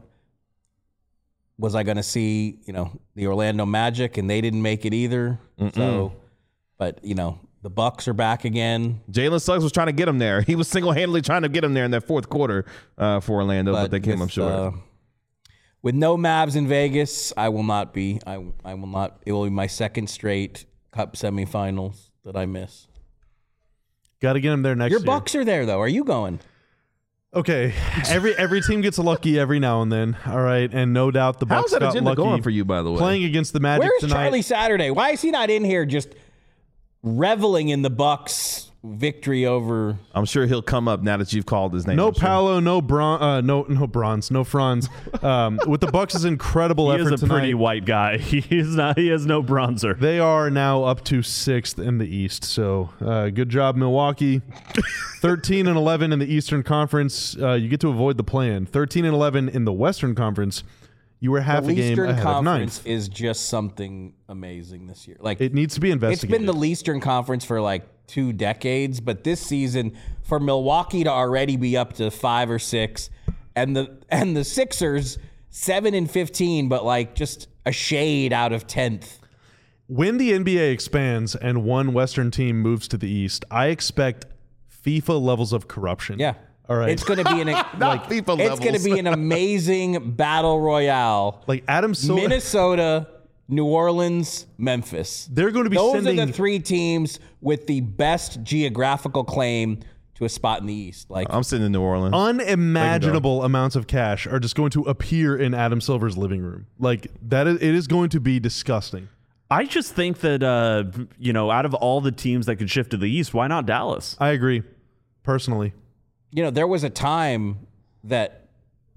was I going to see, you know, the Orlando Magic, and they didn't make it either. Mm-mm. So, but you know, the Bucks are back again. Jalen Suggs was trying to get him there. He was single-handedly trying to get him there in that fourth quarter uh, for Orlando, but, but they came with, up short. Uh, with no Mavs in Vegas, I will not be. I I will not. It will be my second straight Cup semifinals that I miss. Got to get him there next Your year. Bucks are there though. Are you going? Okay, every every team gets lucky every now and then. All right, and no doubt the Bucks How's that got agenda lucky going for you, by the way? playing against the Magic Where's tonight. Charlie Saturday? Why is he not in here just reveling in the Bucks' victory over? I'm sure he'll come up now that you've called his name. No I'm sure. Paolo, no Bron, uh, no no Bronze, no Franz. Um, with the Bucks' incredible He effort is a tonight, pretty white guy. He's not. He has no bronzer. they are now up to sixth in the East. So uh, good job, Milwaukee. thirteen and eleven in the Eastern Conference. Uh, you get to avoid the play-in. thirteen and eleven in the Western Conference. You were half The a game Eastern ahead of Conference ninth. is just something amazing this year. Like It needs to be it's investigated. been the Eastern Conference for like two decades, but this season for Milwaukee to already be up to five or six, and the and the Sixers seven and fifteen, but like just a shade out of tenth. When the N B A expands and one Western team moves to the East, I expect FIFA levels of corruption. Yeah. All right. It's going to be an Not FIFA it's going to levels. be an amazing battle royale. like Adam Silver. Minnesota, New Orleans, Memphis. They're going to be Those sending are the three teams with the best geographical claim to a spot in the East. Like I'm sitting in New Orleans. unimaginable amounts of cash are just going to appear in Adam Silver's living room. Like that is, it is going to be disgusting. I just think that uh, you know, out of all the teams that could shift to the East, why not Dallas? I agree, personally. you know, there was a time that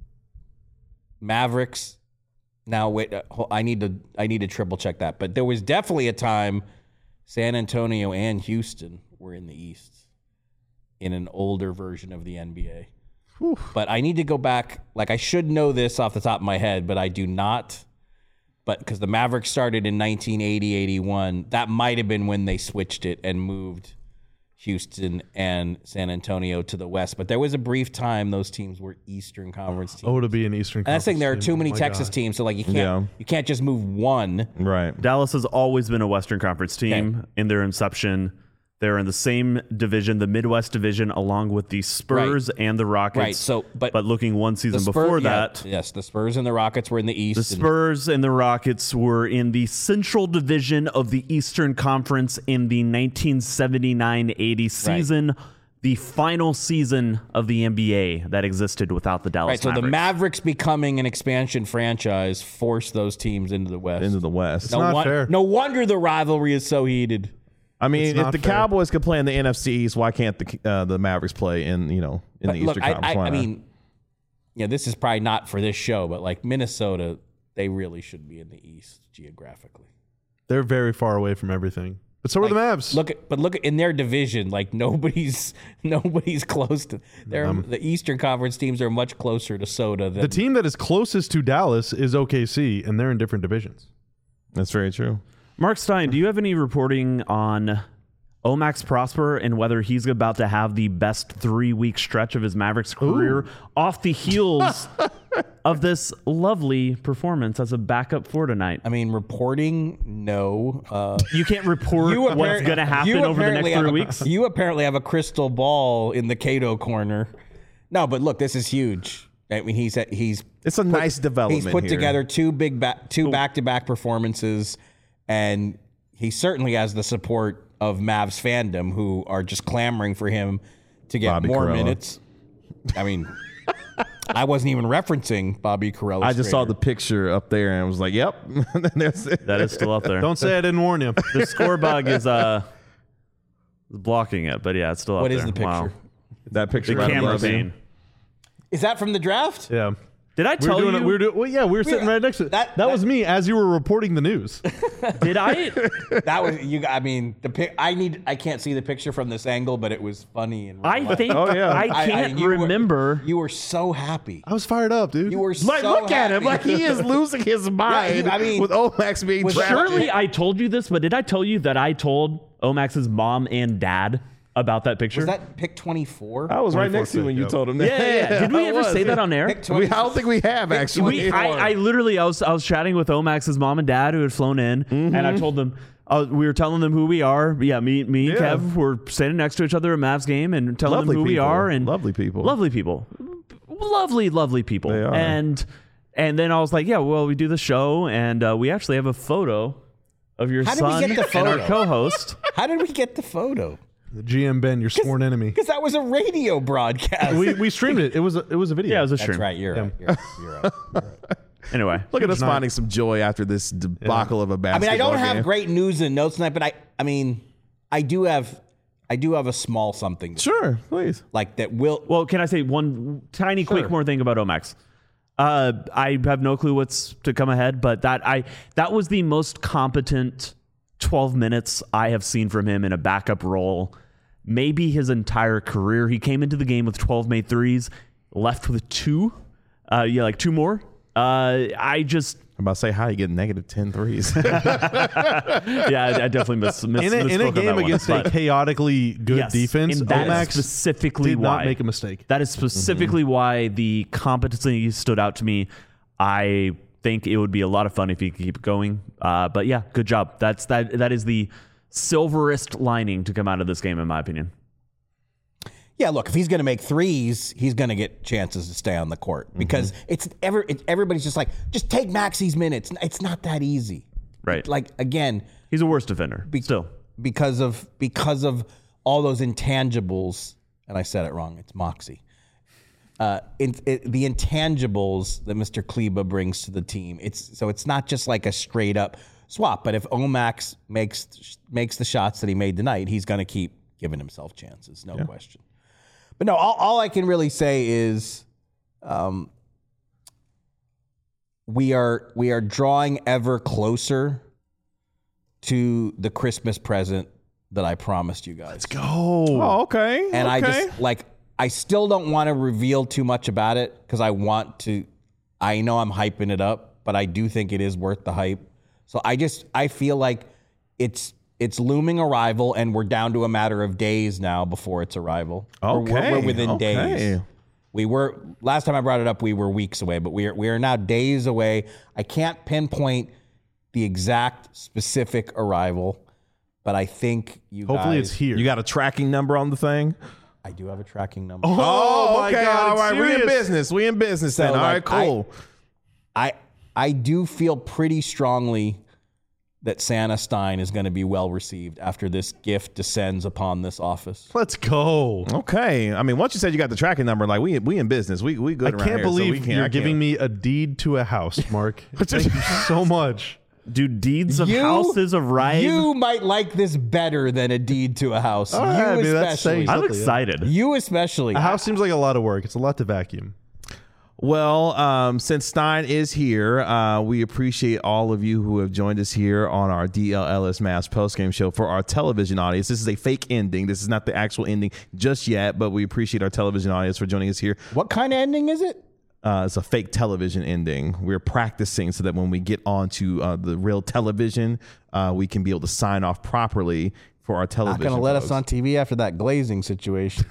Mavericks. Now wait, uh, ho- I need to I need to triple check that. But there was definitely a time San Antonio and Houston were in the East in an older version of the N B A. But I need to go back. Like I should know this off the top of my head, but I do not. But because the Mavericks started in nineteen eighty, eighty-one, that might have been when they switched it and moved Houston and San Antonio to the West. But there was a brief time those teams were Eastern Conference teams. Oh, to be an Eastern And Conference that's the thing, there are team. too many Oh my Texas God. teams, so like you can't Yeah. you can't just move one. Right. Dallas has always been a Western Conference team Okay. in their inception. They're in the same division, the Midwest division, along with the Spurs and the Rockets. Right, so- but but looking one The season Spurs- before yeah, that, yes, the Spurs and the Rockets were in the East. the and- Spurs and the Rockets were in the Central Division of the Eastern Conference in the nineteen seventy-nine eighty season, the final season of the N B A that existed without the Dallas Right, so Mavericks. the Mavericks becoming an expansion franchise forced those teams into the West. Into the West. no, not won- fair. no wonder the rivalry is so heated. I mean, It's if not the fair. Cowboys could play in the N F C East, why can't the uh, the Mavericks play in you know in But the look, Eastern I, Conference? I, Why I not? mean, yeah, this is probably not for this show, but like Minnesota, they really should be in the East geographically. They're very far away from everything. But so are the Mavs. Look at, but look at in their division, like nobody's nobody's close to. They're the Eastern Conference teams are much closer to Soda than the team that is closest to Dallas is O K C, and they're in different divisions. That's very true. Mark Stein, do you have any reporting on Omax Prosper and whether he's about to have the best three-week stretch of his Mavericks career off the heels of this lovely performance as a backup for tonight? I mean, reporting, no. Uh, You can't report you what's appar- going to happen you over the apparently next three have a- weeks. You apparently have a crystal ball in the Cato corner. No, but look, this is huge. I mean, he's he's It's a nice development. he's put here. together two big back two back to back performances, and he certainly has the support of Mavs fandom who are just clamoring for him to get Bobby more Carella. minutes. I mean, I wasn't even referencing Bobby Carella. I just saw the picture up there and was like, "Yep, that's it." That is still up there. Don't say I didn't warn you. The score bug is uh blocking it, but yeah, it's still up What there. is the picture? Wow. That picture The right camera above him. vein. Is that from the draft? Yeah. Did I We tell were doing you? it. We were doing. Well, yeah, we were sitting right next to it. that- That, that- was me as you were reporting the news. Did I? That was you. I mean, the pic. I need. I can't see the picture from this angle, but it was funny. And I think Oh, yeah. I I- I- can't you were- remember. you were so happy. I was fired up, dude. You were Like, so look at him. happy. Like, he is losing his mind I mean, with Omax being was- drafted. Surely I told you this, but did I tell you that I told Omax's mom and dad about that picture? Was that pick twenty-four? I was right next to you when you Yep. told him that. yeah, yeah, yeah. Did we I ever was. say that on air? Pick We, twenty-four. I don't think we have, actually. We, I, I literally, I was, I was chatting with Omax's mom and dad who had flown in, and I told them, uh, we were telling them who we are. Yeah, me, me and Yeah. Kev were standing next to each other at Mavs game and telling Lovely them who we people. are. And Lovely people. lovely people, lovely, lovely people. They are. And and then I was like, yeah, well, we do the show, and uh, we actually have a photo of your How did we son get the and our photo? co-host. How did we get the photo? The G M Ben, your sworn enemy. Because that was a radio broadcast. We we streamed it. It was a, it was a video. Yeah, it was a That's stream. right. You're right. You're right. You're right. You're right. Anyway, Look at us night. finding some joy after this debacle of a I basketball mean, I don't game. have great news and notes tonight, but I, I mean, I do have, I do have a small something Sure, please. like that will. well, can I say one tiny quick Sure. more thing about Omax? Uh, I have no clue what's to come ahead, but that I that was the most competent twelve minutes I have seen from him in a backup role, maybe his entire career. He came into the game with twelve made threes, left with two, uh, yeah, like two more. Uh, I just, I'm about to say how you get negative ten threes. yeah, I, I definitely miss, miss in a, in a misspoke on that game one, against but- a chaotically good Yes, defense. and that is Omax specifically did why. not make a mistake. That is specifically why the competency stood out to me. I think it would be a lot of fun if he could keep going. Uh, but yeah, good job. That's that. That is the silverest lining to come out of this game, in my opinion. Yeah, look, if he's going to make threes, he's going to get chances to stay on the court because it's ever it, everybody's just like, just take Maxi's minutes. It's not that easy, Right. Like again, He's a worse defender. Still, because of because of all those intangibles, and I said it wrong. It's Moxie. Uh, in, it, the intangibles that Mister Kleba brings to the team. It's so it's not just like a straight up swap. But if Omax makes makes the shots that he made tonight, he's going to keep giving himself chances, no question. But no, all, all I can really say is, um, we are we are drawing ever closer to the Christmas present that I promised you guys. Oh, okay. And I okay. just like I still don't want to reveal too much about it because I want to. I know I'm hyping it up, but I do think it is worth the hype. So I just I feel like it's it's looming arrival, and we're down to a matter of days now before its arrival. We're- we're, Okay, we're within okay. days. We were last time I brought it up. We were weeks away, but we are we are now days away. I can't pinpoint the exact specific arrival, but I think you. Hopefully, guys, it's here. You got a tracking number on the thing? I do have a tracking number. Oh, my okay. God, all it's right. We in serious. business. We in business then. So, All right, like, cool. I I do feel pretty strongly that Santa Stein is going to be well received after this gift descends upon this office. Let's go. Okay. I mean, once you said you got the tracking number, like we we in business. We we good I around can't here, so believe we can't, you're I can't. giving me a deed to a house, Mark. Thank you so much. do deeds of You- houses arrive? You might like this better than a deed to a house. All right, I you mean, that's especially. saying I'm something, yeah. excited. You especially. A house seems like a lot of work. It's a lot to vacuum. Well, um, since Stein is here, uh, we appreciate all of you who have joined us here on our D L L S Mavs postgame show for our television audience. This is a fake ending. This is not the actual ending just yet, but we appreciate our television audience for joining us here. What kind of ending is it? Uh, it's a fake television ending. We're practicing so that when we get onto uh, the real television, uh, we can be able to sign off properly for our Not television. going to let folks. us on T V after that glazing situation.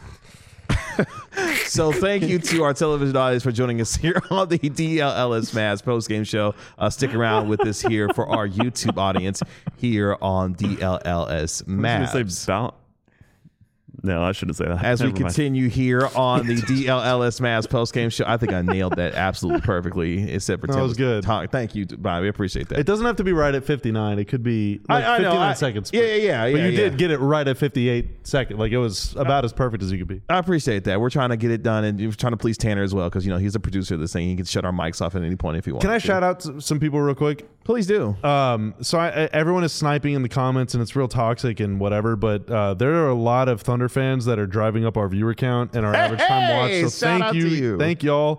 So thank you to our television audience for joining us here on the D L L S Mavs postgame show. Uh, stick around with us here for our YouTube audience here on D L L S I was gonna Mavs. say about. No, I shouldn't say that. As we Never mind. continue here on the D L L S Mavs postgame show, I think I nailed that absolutely perfectly. Except for That Tim was good. Talk. Thank you, Brian. We appreciate that. It doesn't have to be right at fifty-nine. It could be like I- I know, fifty-nine I- seconds. yeah, but- yeah, yeah, But yeah, you yeah. did get it right at fifty-eight seconds. Like it was about as perfect as you could be. I appreciate that. We're trying to get it done, and we're trying to please Tanner as well because you know he's a producer of this thing. He can shut our mics off at any point if he wants. Can I to. shout out to some people real quick? Please do. Um, so I, I- everyone is sniping in the comments, and it's real toxic and whatever. But uh, there are a lot of Thunder fans that are driving up our viewer count and our average time watch. Hey, So shout thank out you, to you. thank y'all.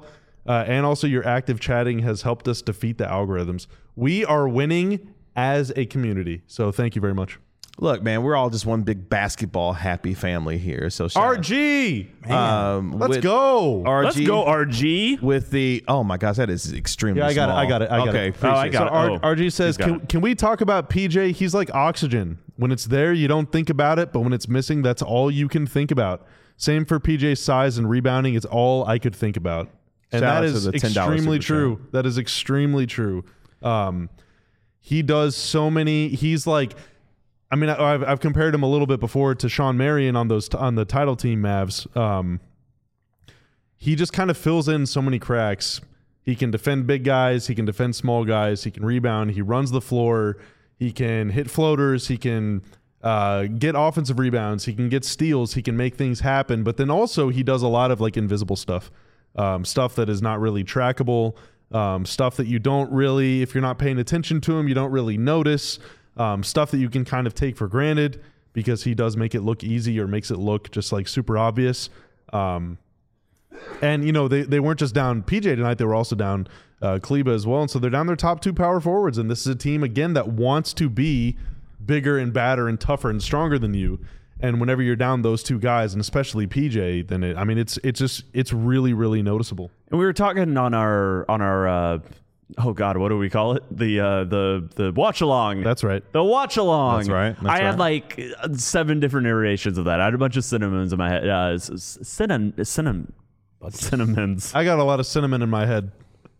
Uh, and also your active chatting has helped us defeat the algorithms. We are winning as a community. So thank you very much. Look, man, we're all just one big basketball happy family here. So shout R G, um, let's with go. R G, Let's go, R G. with the oh my gosh, that is extremely Yeah, I got small. it. I got it. I got okay, it. appreciate Oh, I it. got So it. R- Oh, R G says, he's got can, it. can we talk about P J? He's like oxygen. When it's there, you don't think about it, but when it's missing, that's all you can think about. Same for P J's size and rebounding. It's all I could think about. And Shout that out to is the ten dollars extremely super true. chat. That is extremely true. Um, he does so many. He's like, I mean, I, I've, I've compared him a little bit before to Sean Marion on those on the title team Mavs. Um, he just kind of fills in so many cracks. He can defend big guys. He can defend small guys. He can rebound. He runs the floor. He can hit floaters. He can uh, get offensive rebounds. He can get steals. He can make things happen. But then also he does a lot of like invisible stuff, um, stuff that is not really trackable, um, stuff that you don't really, if you're not paying attention to him, you don't really notice. Um, stuff that you can kind of take for granted because he does make it look easy or makes it look just like super obvious. Um, and, you know, they, they weren't just down P J tonight. They were also down uh, Kleba as well. And so they're down their top two power forwards. And this is a team, again, that wants to be bigger and badder and tougher and stronger than you. And whenever you're down those two guys, and especially P J, then it, I mean, it's it's just it's really, really noticeable. And we were talking on our on our uh, oh god, what do we call it? The uh, the the watch along. That's right. The watch along. That's right. That's I had right. like uh, seven different iterations of that. I had a bunch of cinnamons in my head. Uh, cinnamon, cinnamon, cinnamons. I got a lot of cinnamon in my head.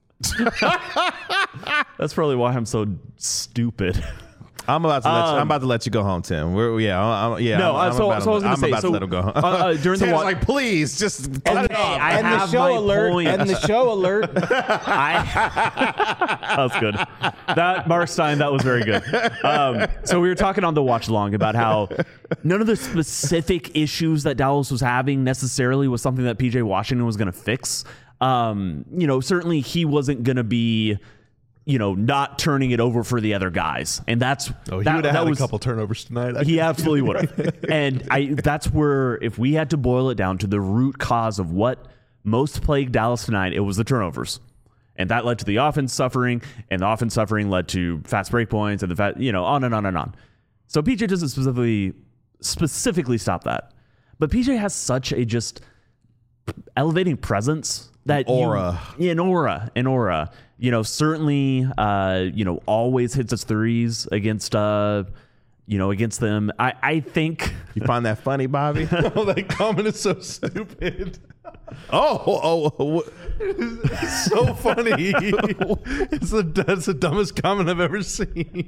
That's probably why I'm so stupid. I'm about to let you, Um, I'm about to let you go home, Tim. We're, yeah, I'm, yeah. No, I'm, uh, so- I'm about, so I was to, gonna I'm say, about so, to let him go home. uh, uh, during the Tim's wa- like, please, just cut it off. I and the have show my alert. point. And the show alert. I, that was good. That Mark Stein, that was very good. Um, so we were talking on the watch along about how none of the specific issues that Dallas was having necessarily was something that P J Washington was going to fix. Um, you know, certainly he wasn't going to be, you know, not turning it over for the other guys, and that's Oh, he that, would have that had was, a couple turnovers tonight. I He absolutely would have. And I that's where, if we had to boil it down to the root cause of what most plagued Dallas tonight, it was the turnovers. And that led to the offense suffering, and the offense suffering led to fast break points, and the fat, you know, on and on and on. So P J doesn't specifically specifically stop that. But P J has such a just elevating presence that Aura. you, yeah, an aura, an aura. You know, certainly, uh, you know, always hits his threes against, uh, you know, against them. I, I think. You find that funny, Bobby? oh, that comment is so stupid. oh, oh, oh, It's so funny. it's the that's the dumbest comment I've ever seen.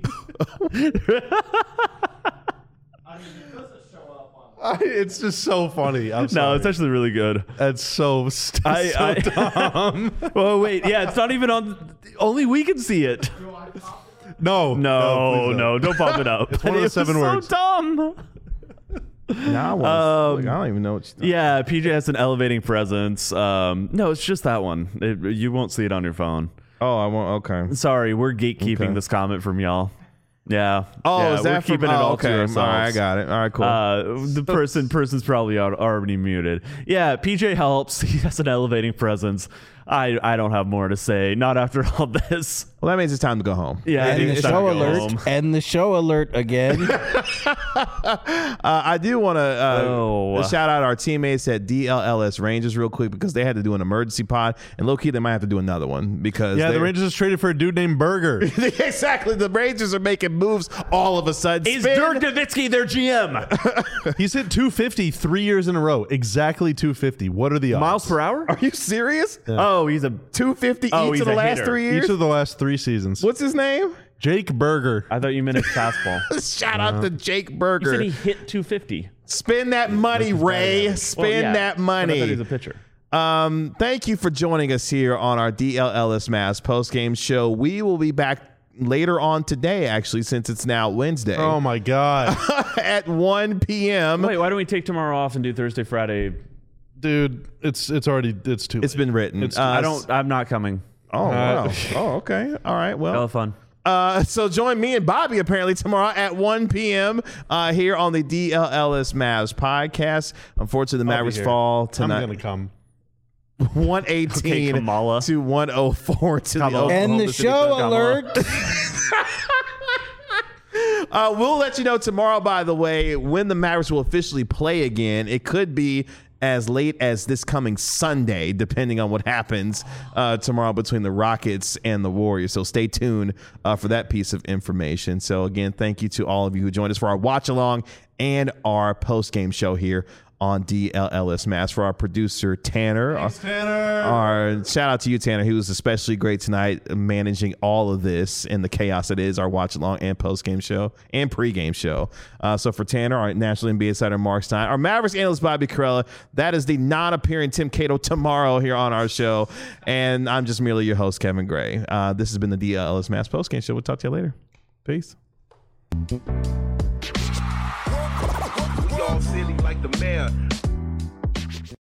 I, it's just so funny. I'm No, sorry. it's actually really good. That's so, st- I, so I, dumb. well, wait, yeah, it's not even on. Only we can see it. No, No, please no, don't pop it up. It's one of the It was seven words. So dumb. Now I, wanna, Um, look, I don't even know what you're Yeah, P J has an elevating presence. Um, no, it's just that one. It, you won't see it on your phone. Oh, I want. Okay. Sorry, we're gatekeeping Okay. this comment from y'all. Yeah. Oh, yeah, is that we're from, keeping it oh, all okay. to ourselves. All right, I got it. All right, cool. Uh, the person person's probably al- already muted. Yeah, P J helps. He has an elevating presence. I I don't have more to say. Not after all this. well, that means it's time to go home. Yeah, I And think the it's time show to go alert. home. And the show alert again. Uh, I do want to uh, Oh. shout out our teammates at D L L S Rangers real quick because they had to do an emergency pod, and low key they might have to do another one because Yeah, they- the Rangers just traded for a dude named Burger. exactly. The Rangers are making moves all of a sudden. Is Spin- Dirk Nowitzki their G M? He's hit two fifty three years in a row. Exactly two fifty. What are the odds? Miles per hour? Are you serious? Oh, he's a. two fifty Oh, each he's of the a last hitter. three years. Each of the last three seasons. What's his name? Jake Burger. I thought you meant his fastball. Shout out to Jake You Burger. said he hit two fifty. Spin that money, Ray. Spin Well, yeah, that but I thought he money. was a pitcher. Um, thank you for joining us here on our D L L S Mavs post-game show. We will be back later on today, actually, since it's now Wednesday Oh my God. at one p.m. Wait, why don't we take tomorrow off and do Thursday, Friday? Dude, it's it's already it's too It's late. been written. It's- Uh, I don't. I'm not coming. Oh, Uh, wow. Oh, okay. All right. Well, Hella fun. Uh, so join me and Bobby apparently tomorrow at one p.m. Uh, here on the D L L S Mavs podcast. Unfortunately, the I'll be Mavericks here. fall I'm tonight. gonna come. one eighteen Okay, Kamala. to one oh four to the Kamala. Oklahoma And the City show Thunder. alert. Uh, we'll let you know tomorrow, by the way, when the Mavericks will officially play again. It could be as late as this coming Sunday, depending on what happens uh, tomorrow between the Rockets and the Warriors. So stay tuned uh, for that piece of information. So again, thank you to all of you who joined us for our watch along and our post game show here on D L L S Mavs. For our producer Tanner, Thanks, our, Tanner. our shout out to you, Tanner. He was especially great tonight, managing all of this and the chaos that is our watch along and post game show and pre game show. Uh, so for Tanner, our national N B A insider Mark Stein, our Mavericks analyst Bobby Karalla, that is the non-appearing Tim Cato tomorrow here on our show, and I'm just merely your host Kevin Gray. Uh, this has been the D L L S Mavs post game show. We'll talk to you later. Peace. We all silly like the mayor.